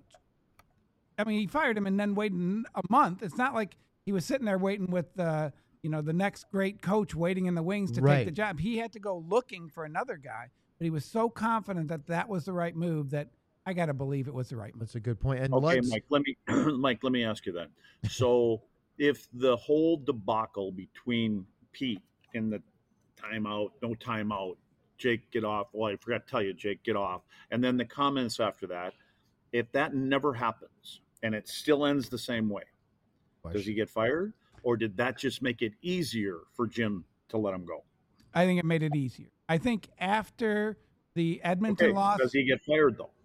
I mean, he fired him and then waited a month. It's not like he was sitting there waiting with uh, you know, the next great coach waiting in the wings to Right. take the job. He had to go looking for another guy, but he was so confident that that was the right move that I got to believe it was the right move. That's a good point. And Okay, Luds, Mike. Let me, Mike. Let me ask you then. So, if the whole debacle between Pete in the timeout, no timeout, Jake get off. Well, I forgot to tell you, Jake get off, and then the comments after that. If that never happens and it still ends the same way, does he get fired, or did that just make it easier for Jim to let him go? I think it made it easier. I think after the Edmonton Okay, loss, does he get fired though?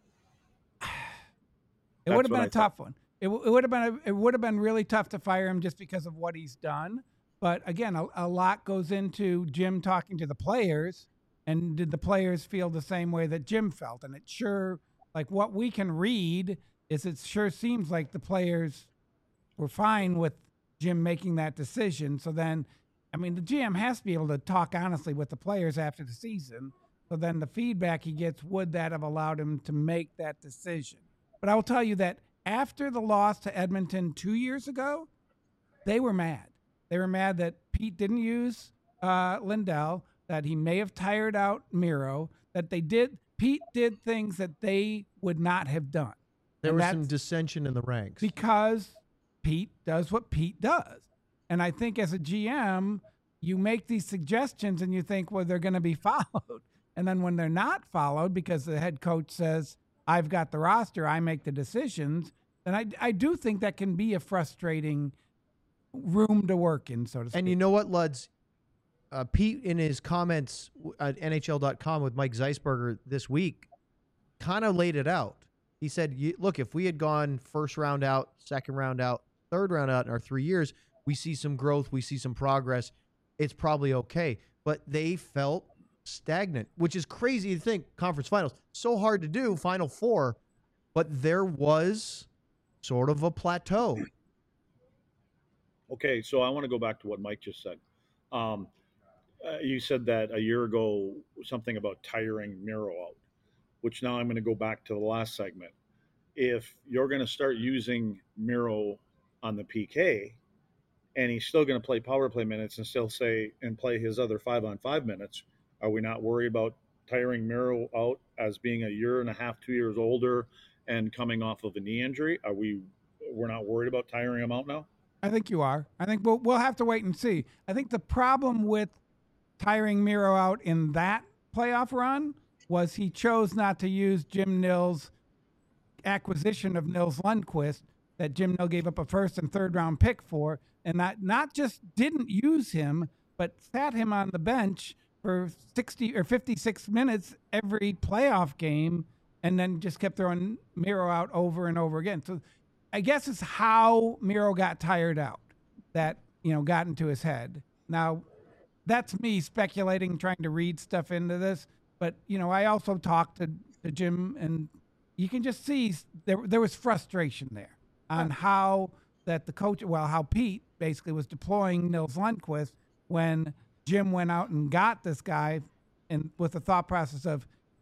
it would That's have been what a I tough one. It, w- it would have been a, it would have been really tough to fire him just because of what he's done. But again, a, a lot goes into Jim talking to the players, and did the players feel the same way that Jim felt? And it sure, like what we can read is, it sure seems like the players were fine with Jim making that decision. So then, I mean, the G M has to be able to talk honestly with the players after the season. So then the feedback he gets, would that have allowed him to make that decision? But I will tell you that after the loss to Edmonton two years ago, they were mad. They were mad that Pete didn't use uh, Lindell, that he may have tired out Miro, that they did. Pete did things that they would not have done. There And was some that's dissension in the ranks. because Pete does what Pete does. And I think as a G M, you make these suggestions and you think, well, they're going to be followed. And then when they're not followed because the head coach says, I've got the roster, I make the decisions, then I, I do think that can be a frustrating room to work in, so to speak. And you know what, Luds? Uh, Pete, in his comments at N H L dot com with Mike Zeisberger this week, kind of laid it out. He said, "You- look, if we had gone first round out, second round out, third round out in our three years, we see some growth, we see some progress. It's probably okay." But they felt stagnant, which is crazy to think. Conference finals, so hard to do, Final Four, but there was sort of a plateau. Okay, so I want to go back to what Mike just said. Um, uh, you said that a year ago something about tiring Miro out, which now I'm going to go back to the last segment. If you're going to start using Miro on the P K, and he's still going to play power play minutes and still say and play his other five on five minutes, are we not worried about tiring Miro out as being a year and a half, two years older, and coming off of a knee injury? Are we? We're not worried about tiring him out now. I think you are. I think we'll, we'll have to wait and see. I think the problem with tiring Miro out in that playoff run was he chose not to use Jim Nill's acquisition of Nils Lundqvist that Jim Nill gave up a first and third round pick for, and not, not just didn't use him, but sat him on the bench for sixty or fifty-six minutes every playoff game, and then just kept throwing Miro out over and over again. So I guess it's how Miro got tired out that, you know, got into his head. Now, that's me speculating, trying to read stuff into this. But, you know, I also talked to, to Jim, and you can just see there, there was frustration there on how that the coach, well, how Pete basically was deploying Nils Lundqvist when Jim went out and got this guy and with the thought process of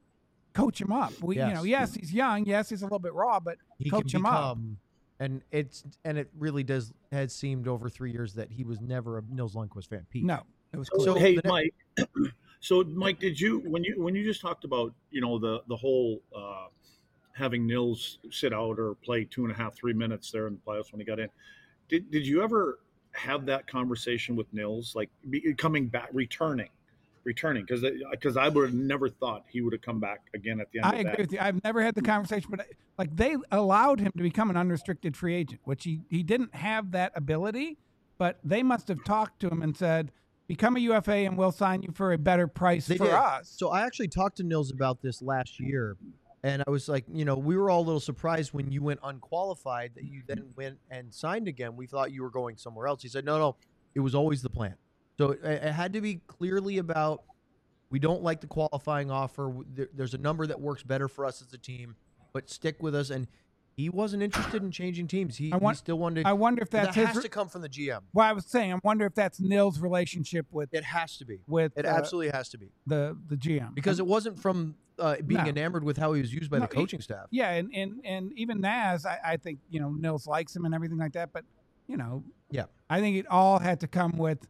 coach him up. We, Yes. You know, yes, he's young. Yes, he's a little bit raw, but He coach can him up. become, and it's and it really does has seemed over three years that he was never a Nils Lundqvist fan. Pete. No, it was So, clear. hey, the ne- Mike. So, Mike, did you when you when you just talked about you know the the whole uh, having Nils sit out or play two and a half three minutes there in the playoffs when he got in? Did did you ever have that conversation with Nils, like be, coming back, returning, returning? Because because I would have never thought he would have come back again at the end I of agree that. with you. I've never had the conversation, but like they allowed him to become an unrestricted free agent, which he, he didn't have that ability, but they must have talked to him and said, become a U F A and we'll sign you for a better price They for did. us. So I actually talked to Nils about this last year, and I was like, you know, we were all a little surprised when you went unqualified that you then went and signed again. We thought you were going somewhere else. He said, no, no, it was always the plan. So it, it had to be clearly about, we don't like the qualifying offer. There, there's a number that works better for us as a team, but stick with us. And he wasn't interested in changing teams. He, I want- he still wanted to. I wonder if that's that his. has re- to come from the G M. well, I was saying, I wonder if that's Nils' relationship with It has to be. with It uh, absolutely has to be. the the G M Because And- it wasn't from uh, being No. enamored with how he was used by No, the he- coaching staff. yeah, and and and even Naz, I, I think you know Nils likes him and everything like that, but you know, Yeah. I think it all had to come with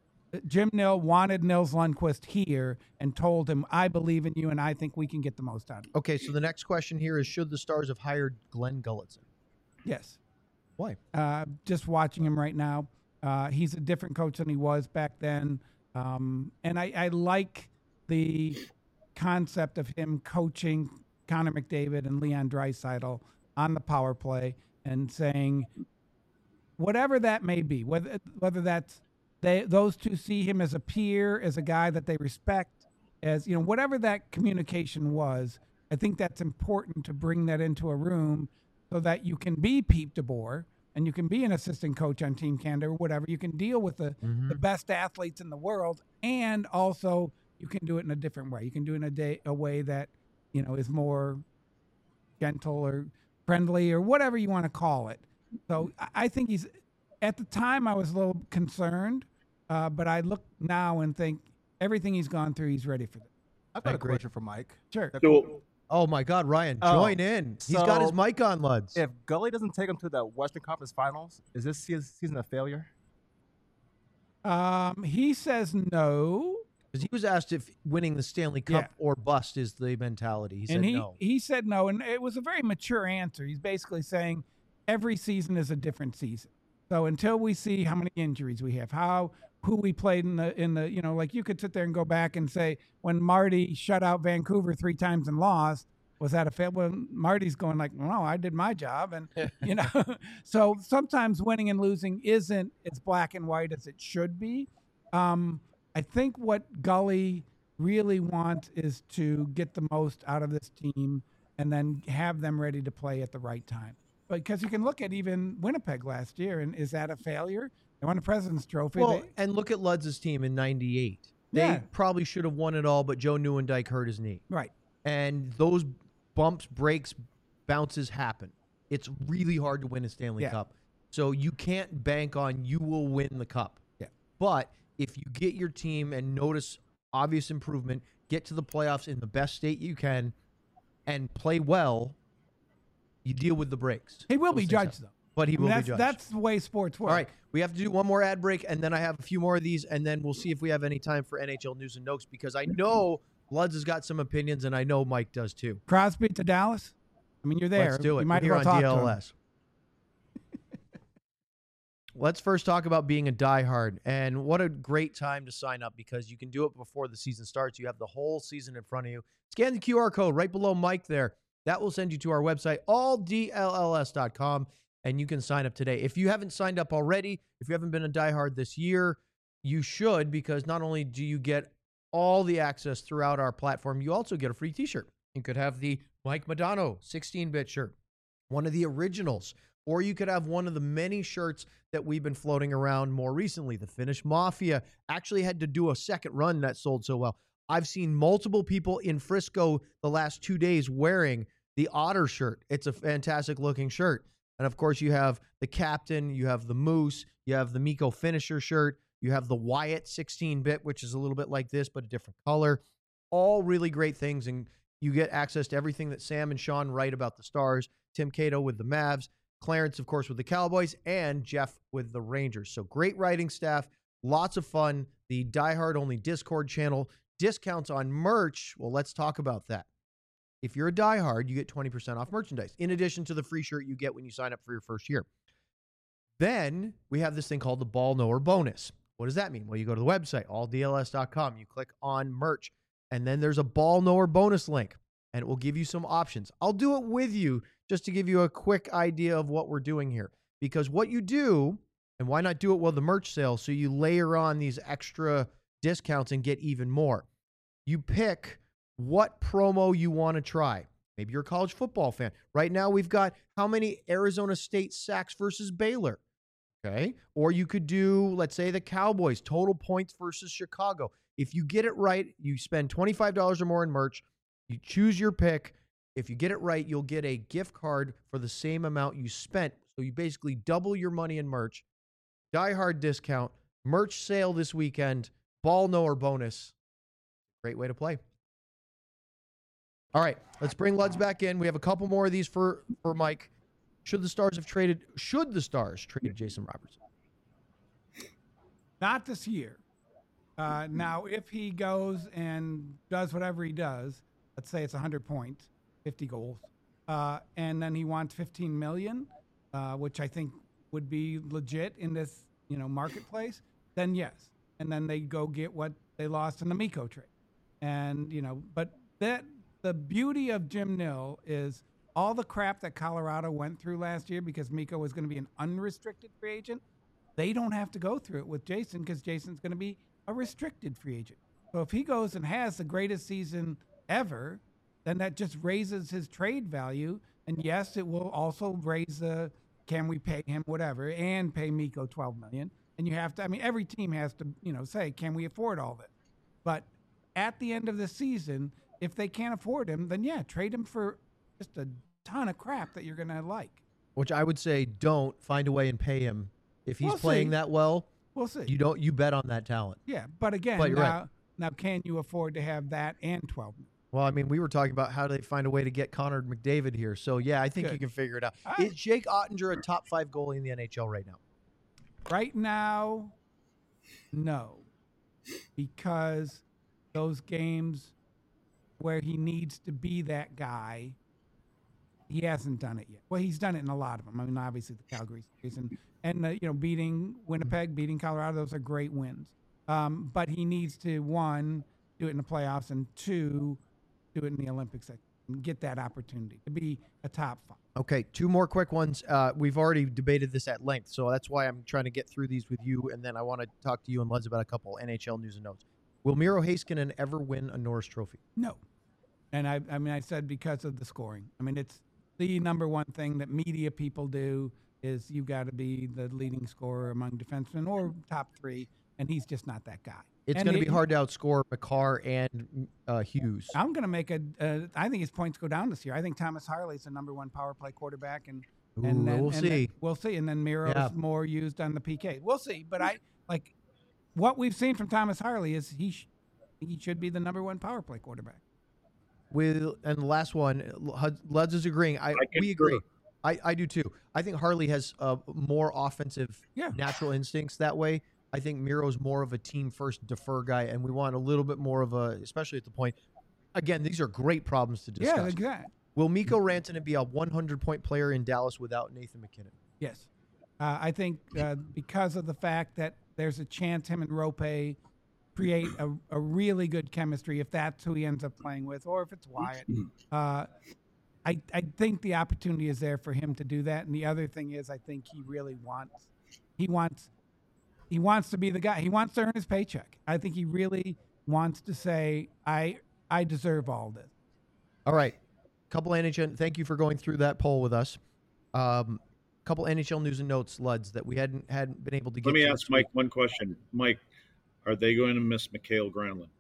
Jim Nill wanted Nils Lundqvist here and told him, I believe in you and I think we can get the most out of you. Okay, so the next question here is, should the Stars have hired Glenn Gulletson? Yes. Why? Uh, just watching him right now, uh, he's a different coach than he was back then. Um, and I, I like the concept of him coaching Connor McDavid and Leon Draisaitl on the power play and saying, whatever that may be, whether whether that's they those two see him as a peer, as a guy that they respect, as you know, whatever that communication was, I think that's important to bring that into a room so that you can be Pete DeBoer and you can be an assistant coach on Team Canada or whatever. You can deal with the, Mm-hmm. the best athletes in the world, and also you can do it in a different way. You can do it in a day a way that you know is more gentle or friendly or whatever you want to call it. So I- I think he's at the time I was a little concerned Uh, but I look now and think everything he's gone through, he's ready for this. I've got I a agree. question for Mike. Sure. So, Oh my God, Ryan, Oh, join in. He's got his so mic on, Luds. If Gully doesn't take him to the Western Conference Finals, is this seas- season a failure? Um, he says no. Because he was asked if winning the Stanley Cup Yeah. or bust is the mentality. He said and he, no. he said no. And it was a very mature answer. He's basically saying every season is a different season. So until we see how many injuries we have, how who we played in the in the you know, like you could sit there and go back and say when Marty shut out Vancouver three times and lost, was that a fail? Well, Marty's going like, no, I did my job, and you know. So sometimes winning and losing isn't as black and white as it should be. Um, I think what Gully really wants is to get the most out of this team and then have them ready to play at the right time. Because you can look at even Winnipeg last year, and is that a failure? They won the President's Trophy. Well, They- and look at Luds' team in ninety-eight. They Yeah. probably should have won it all, but Joe Nieuwendyk hurt his knee. right. And those bumps, breaks, bounces happen. It's really hard to win a Stanley Yeah. Cup. So you can't bank on you will win the cup. Yeah. But if you get your team and notice obvious improvement, get to the playoffs in the best state you can, and play well, you deal with the breaks. He will Those be things judged, happen. though. But he I mean, will that's, be judged. That's the way sports work. All right, we have to do one more ad break, and then I have a few more of these, and then we'll see if we have any time for N H L news and notes, because I know Luds has got some opinions, and I know Mike does too. Crosby to Dallas? I mean, you're there. Let's do it. You might We're as here well on talk to him. D L S. Let's first talk about being a diehard, and what a great time to sign up, because you can do it before the season starts. You have the whole season in front of you. Scan the Q R code right below Mike there. That will send you to our website, all D L L S dot com, and you can sign up today. If you haven't signed up already, if you haven't been a diehard this year, you should, because not only do you get all the access throughout our platform, you also get a free t-shirt. You could have the Mike Modano sixteen-bit shirt, one of the originals, or you could have one of the many shirts that we've been floating around more recently. The Finnish Mafia actually had to do a second run that sold so well. I've seen multiple people in Frisco the last two days wearing the Otter shirt. It's a fantastic looking shirt. And of course, you have the Captain, you have the Moose, you have the Mikko Finisher shirt, you have the Wyatt sixteen-bit, which is a little bit like this, but a different color. All really great things, and you get access to everything that Sam and Sean write about the Stars, Tim Cato with the Mavs, Clarence, of course, with the Cowboys, and Jeff with the Rangers. So great writing staff, lots of fun, the diehard only Discord channel, discounts on merch. Well, let's talk about that. If you're a diehard, you get twenty percent off merchandise, in addition to the free shirt you get when you sign up for your first year. Then we have this thing called the Ball Knower Bonus. What does that mean? Well, you go to the website, all D L S dot com, you click on merch, and then there's a Ball Knower bonus link, and it will give you some options. I'll do it with you just to give you a quick idea of what we're doing here. Because what you do, and why not do it while the merch sale, so you layer on these extra discounts and get even more. You pick what promo you want to try. Maybe you're a college football fan. Right now, we've got how many Arizona State sacks versus Baylor. Okay. Or you could do, let's say, the Cowboys, total points versus Chicago. If you get it right, you spend twenty-five dollars or more in merch. You choose your pick. If you get it right, you'll get a gift card for the same amount you spent. So you basically double your money in merch. Die Hard discount. Merch sale this weekend. Ball Knower bonus. Great way to play. All right, let's bring Luds back in. We have a couple more of these for, for Mike. Should the Stars have traded, should the Stars trade Jason Robertson? Not this year. Uh, now, if he goes and does whatever he does, let's say it's one hundred points, fifty goals, uh, and then he wants fifteen million dollars, uh, which I think would be legit in this, you know, marketplace, then yes. And then they go get what they lost in the Mikko trade. And, you know, but that the beauty of Jim Nill is all the crap that Colorado went through last year because Mikko was going to be an unrestricted free agent. They don't have to go through it with Jason because Jason's going to be a restricted free agent. So if he goes and has the greatest season ever, then that just raises his trade value. And yes, it will also raise the, can we pay him whatever and pay Mikko twelve million dollars. And you have to, I mean, every team has to, you know, say, can we afford all this? But at the end of the season, if they can't afford him, then yeah, trade him for just a ton of crap that you're going to like. Which I would say don't find a way and pay him. If he's We'll playing see. that well, We'll see. You don't. You bet on that talent. Yeah, but again, But you're now, right. now can you afford to have that and twelve million? Well, I mean, we were talking about how do they find a way to get Connor McDavid here. So yeah, I think Good. you can figure it out. All right. Is Jake Ottinger a top five goalie in the N H L right now? Right now, no, because those games where he needs to be that guy, he hasn't done it yet. Well, he's done it in a lot of them. I mean, obviously the Calgary series and and uh, you know, beating Winnipeg, beating Colorado, those are great wins. Um, but he needs to, one, do it in the playoffs, and two, do it in the Olympics and get that opportunity to be a top five. Okay, two more quick ones. Uh, we've already debated this at length, so that's why I'm trying to get through these with you, and then I want to talk to you and Les about a couple N H L news and notes. Will Miro Heiskanen ever win a Norris Trophy? No. And I, I mean, I said because of the scoring. I mean, it's the number one thing that media people do is you got to be the leading scorer among defensemen or top three, and he's just not that guy. It's And going to he- be hard to outscore McCarr and uh, Hughes. I'm going to make a. Uh, I think his points go down this year. I think Thomas Harley's the number one power play quarterback, and Ooh, and then, we'll and see. then- we'll see. And then Miro's Yeah. more used on the P K. We'll see. But I like what we've seen from Thomas Harley is he sh- he should be the number one power play quarterback. With and the last one, Luds is agreeing. I, I we concur. agree. I, I do too. I think Harley has uh, more offensive Yeah. natural instincts that way. I think Miro's more of a team first defer guy, and we want a little bit more of a, especially at the point. Again, these are great problems to discuss. Yeah, exactly. Will Mikko Rantanen be a one hundred point player in Dallas without Nathan McKinnon? Yes. Uh, I think uh, because of the fact that there's a chance him and Rope create a, a really good chemistry if that's who he ends up playing with, or if it's Wyatt. Uh, I, I think the opportunity is there for him to do that. And the other thing is I think he really wants he wants he wants to be the guy. He wants to earn his paycheck. I think he really wants to say, I I deserve all this. All right. Couple N H L. Thank you for going through that poll with us. Um, couple N H L news and notes, Luds, that we hadn't hadn't been able to get Let me to ask this Mike week. one question. Mike, are they going to miss Mikhail Granlund?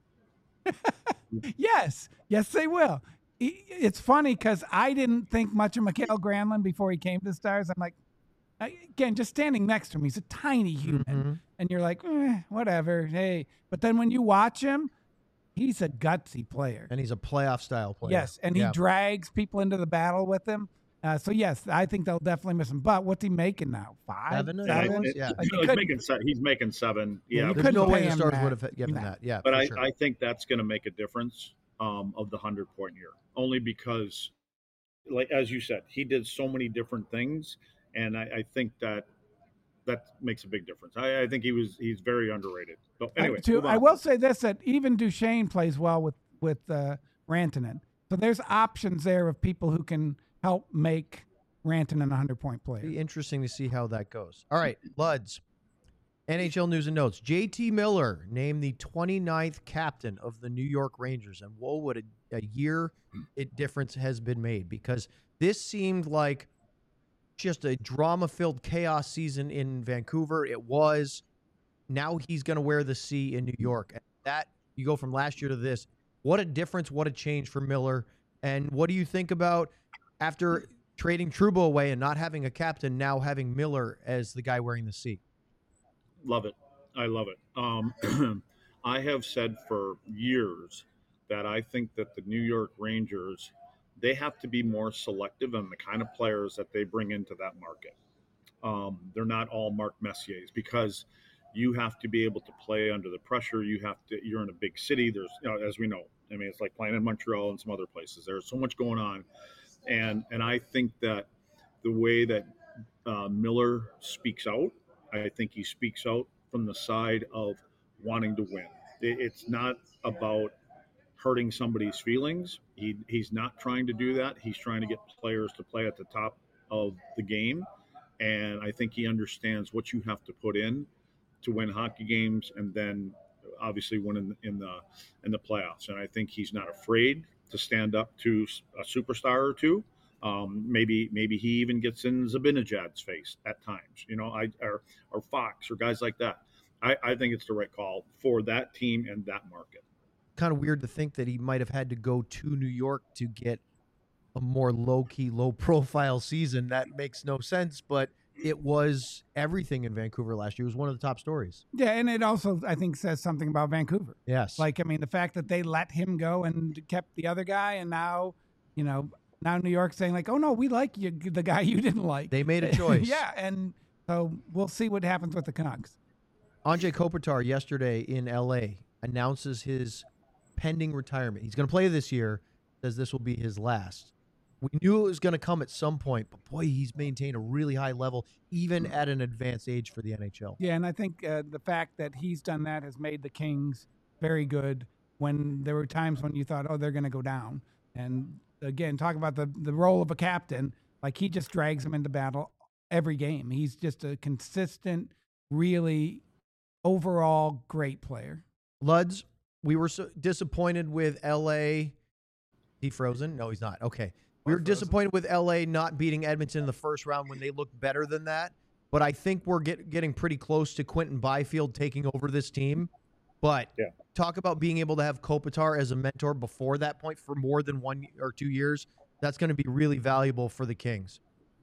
Yes, yes, they will. I- It's funny because I didn't think much of Mikhail Granlund before he came to the Stars. I'm like, I- again, just standing next to him, he's a tiny human, Mhm. and you're like, eh, whatever, hey. But then when you watch him, he's a gutsy player. And he's a playoff style player. Yes, and he Yeah. drags people into the battle with him. Uh, so yes, I think they'll definitely miss him. But what's he making now? Five, Seven, I seven? think. It- Yeah. Like, you he's, couldn't- making se- he's making seven. Yeah, Yeah, you There's couldn't no way pay the him Stars that. would have given No. that. Yeah, but for I, sure. I think that's going to make a difference um, of the hundred point year, only because, like as you said, he did so many different things, and I, I think that that makes a big difference. I, I think he was he's very underrated. So anyway, I, to, move on. I will say this: that even Duchesne plays well with with uh, Rantanen. So there's options there of people who can help make Rantanen a hundred point player. Be interesting to see how that goes. All right, Luds. N H L news and notes. J T Miller named the twenty-ninth captain of the New York Rangers. And whoa, what a, a year it difference has been made, because this seemed like just a drama-filled chaos season in Vancouver. It was. Now he's going to wear the C in New York. And that, you go from last year to this. What a difference, what a change for Miller. And what do you think about after trading Trouba away and not having a captain, now having Miller as the guy wearing the C? Love it. I love it. Um, I have said for years that I think that the New York Rangers, they have to be more selective in the kind of players that they bring into that market. Um, they're not all Mark Messiers, because you have to be able to play under the pressure. You have to. You're in a big city. There's, you know, as we know, I mean, it's like playing in Montreal and some other places. There's so much going on, and and I think that the way that uh, Miller speaks out, I think he speaks out from the side of wanting to win. It, it's not about hurting somebody's feelings. He he's not trying to do that. He's trying to get players to play at the top of the game, and I think he understands what you have to put in to win hockey games, and then obviously win in, in the in the playoffs. And I think he's not afraid to stand up to a superstar or two. Um, maybe maybe he even gets in Zibanejad's face at times, you know, I or, or Fox or guys like that. I, I think it's the right call for that team and that market. Kind of weird to think that he might have had to go to New York to get a more low-key, low-profile season. That makes no sense, but it was everything in Vancouver last year. It was one of the top stories. Yeah, and it also, I think, says something about Vancouver. Yes. Like, I mean, the fact that they let him go and kept the other guy, and now, you know, now New York's saying, like, oh, no, we like you, the guy you didn't like. They made a choice. Yeah, and so we'll see what happens with the Canucks. Anze Kopitar yesterday in L A announces his pending retirement. He's going to play this year, says this will be his last. We knew it was going to come at some point, but boy, he's maintained a really high level, even at an advanced age for the N H L. Yeah, and I think uh, the fact that he's done that has made the Kings very good when there were times when you thought, oh, they're going to go down. And again, talk about the, the role of a captain. Like, he just drags them into battle every game. He's just a consistent, really overall great player. Luds, we were so disappointed with L A. He frozen? No, he's not. Okay. We were disappointed with L A not beating Edmonton in the first round when they looked better than that. But I think we're get, getting pretty close to Quentin Byfield taking over this team. But yeah. talk about being able to have Kopitar as a mentor before that point for more than one or two years. That's going to be really valuable for the Kings.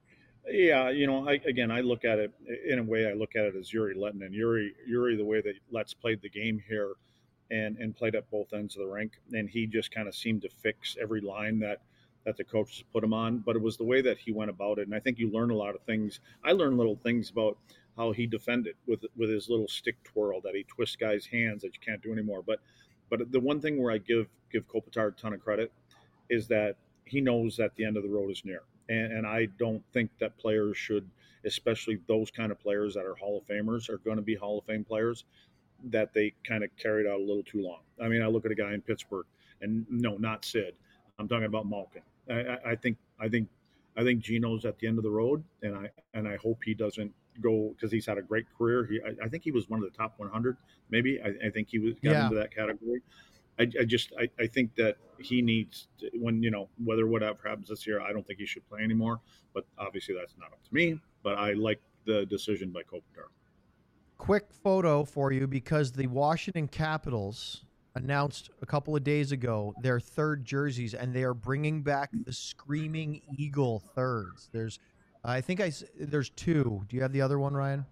Yeah, you know, I, again, I look at it in a way. I look at it as Yuri Lettinen. Yuri, Yuri, the way that Let's played the game here, and and played at both ends of the rink, and he just kind of seemed to fix every line that that the coaches put him on. But it was the way that he went about it, and I think you learn a lot of things. I learned little things about how he defended with with his little stick twirl that he twists guys' hands that you can't do anymore. But but the one thing where I give give Kopitar a ton of credit is that he knows that the end of the road is near. And, and I don't think that players should, especially those kind of players that are Hall of Famers, are going to be Hall of Fame players, that they kind of carried out a little too long. I mean, I look at a guy in Pittsburgh, and no, not Sid. I'm talking about Malkin. I, I, I think I think I think Gino's at the end of the road, and I and I hope he doesn't go, because he's had a great career. He I, I think he was one of the top one hundred, maybe. I, I think he was got Yeah. into that category. I, I just I, I think that he needs to, when you know whether whatever happens this year, I don't think he should play anymore. But obviously that's not up to me. But I like the decision by Kopitar. Quick photo for you, because the Washington Capitals announced a couple of days ago their third jerseys, and they are bringing back the Screaming Eagle thirds. There's, I think I s- there's two. Do you have the other one, Ryan?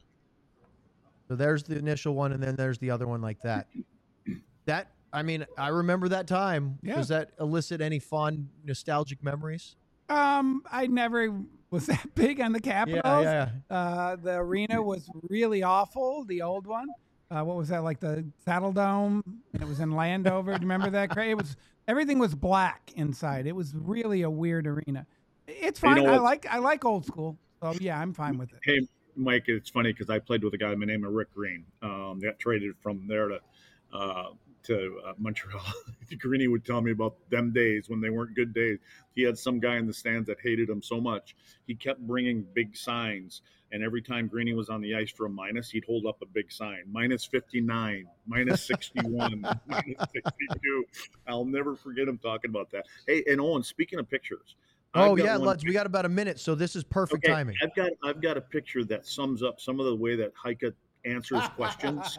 So there's the initial one, and then there's the other one like that. That I mean, I remember that time. Yeah. Does that elicit any fond nostalgic memories? Um, I never was that big on the Capitals. yeah. Uh, the arena was really awful, the old one. Uh, what was that, like the Saddle Dome? And it was in Landover. Do you remember that? Cra- It was everything was black inside. It was really a weird arena. It's You know fine. I what? like I like old school. So yeah, I'm fine with it. Hey, Mike, it's funny because I played with a guy by the name of Rick Green. Um, got traded from there to uh, to uh, Montreal. Greeny would tell me about them days when they weren't good days. He had some guy in the stands that hated him so much. He kept bringing big signs, and every time Greeny was on the ice for a minus, he'd hold up a big sign: minus fifty-nine, minus sixty-one, minus sixty-two. I'll never forget him talking about that. Hey, and Owen, speaking of pictures. Oh I've got yeah, one Luds, we got about a minute, so this is perfect Okay, timing. I've got I've got a picture that sums up some of the way that Heike answers questions.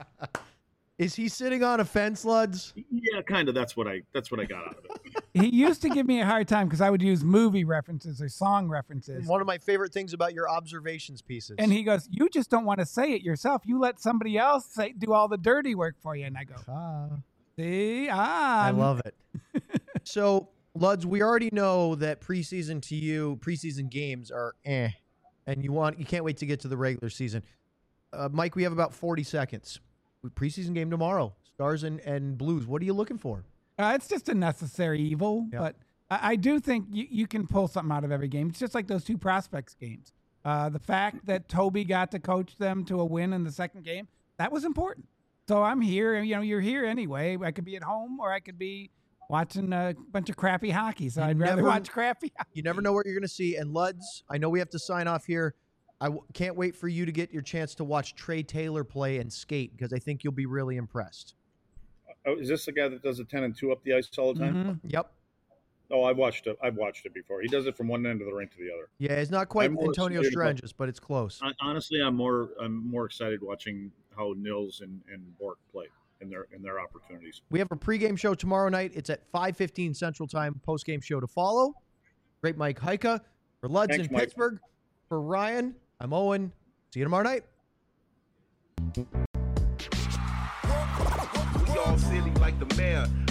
Is he sitting on a fence, Luds? Yeah, kind of. That's what I that's what I got out of it. He used to give me a hard time because I would use movie references or song references. One of my favorite things about your observations pieces. And he goes, "You just don't want to say it yourself. You let somebody else say do all the dirty work for you." And I go, Ah, "See, ah, I I'm- love it. So, Luds, we already know that preseason to you, preseason games are eh, and you want you can't wait to get to the regular season. Uh, Mike, we have about forty seconds. Preseason game tomorrow. Stars and, and Blues. What are you looking for? Uh, it's just a necessary evil, Yep. but I, I do think you, you can pull something out of every game. It's just like those two prospects games. Uh, the fact that Toby got to coach them to a win in the second game, that was important. So I'm here. You know, you're here anyway. I could be at home or I could be watching a bunch of crappy hockey. So You I'd rather never- watch crappy hockey. You never know what you're going to see. And Luds, I know we have to sign off here. I w- can't wait for you to get your chance to watch Trey Taylor play and skate, because I think you'll be really impressed. Oh, is this the guy that does a ten and two up the ice all the time? Mhm. Yep. Oh, I've watched it. I've watched it before. He does it from one end of the rink to the other. Yeah, it's not quite I'm more Antonio excited about- Stranges, but it's close. I, honestly, I'm more I'm more excited watching how Nils and, and Bork play in their in their opportunities. We have a pregame show tomorrow night. It's at five fifteen Central Time. Postgame show to follow. Great Mike Heike. For Luds Thanks, in Mike. Pittsburgh. For Ryan, I'm Owen. See you tomorrow night. We all silly like the mayor.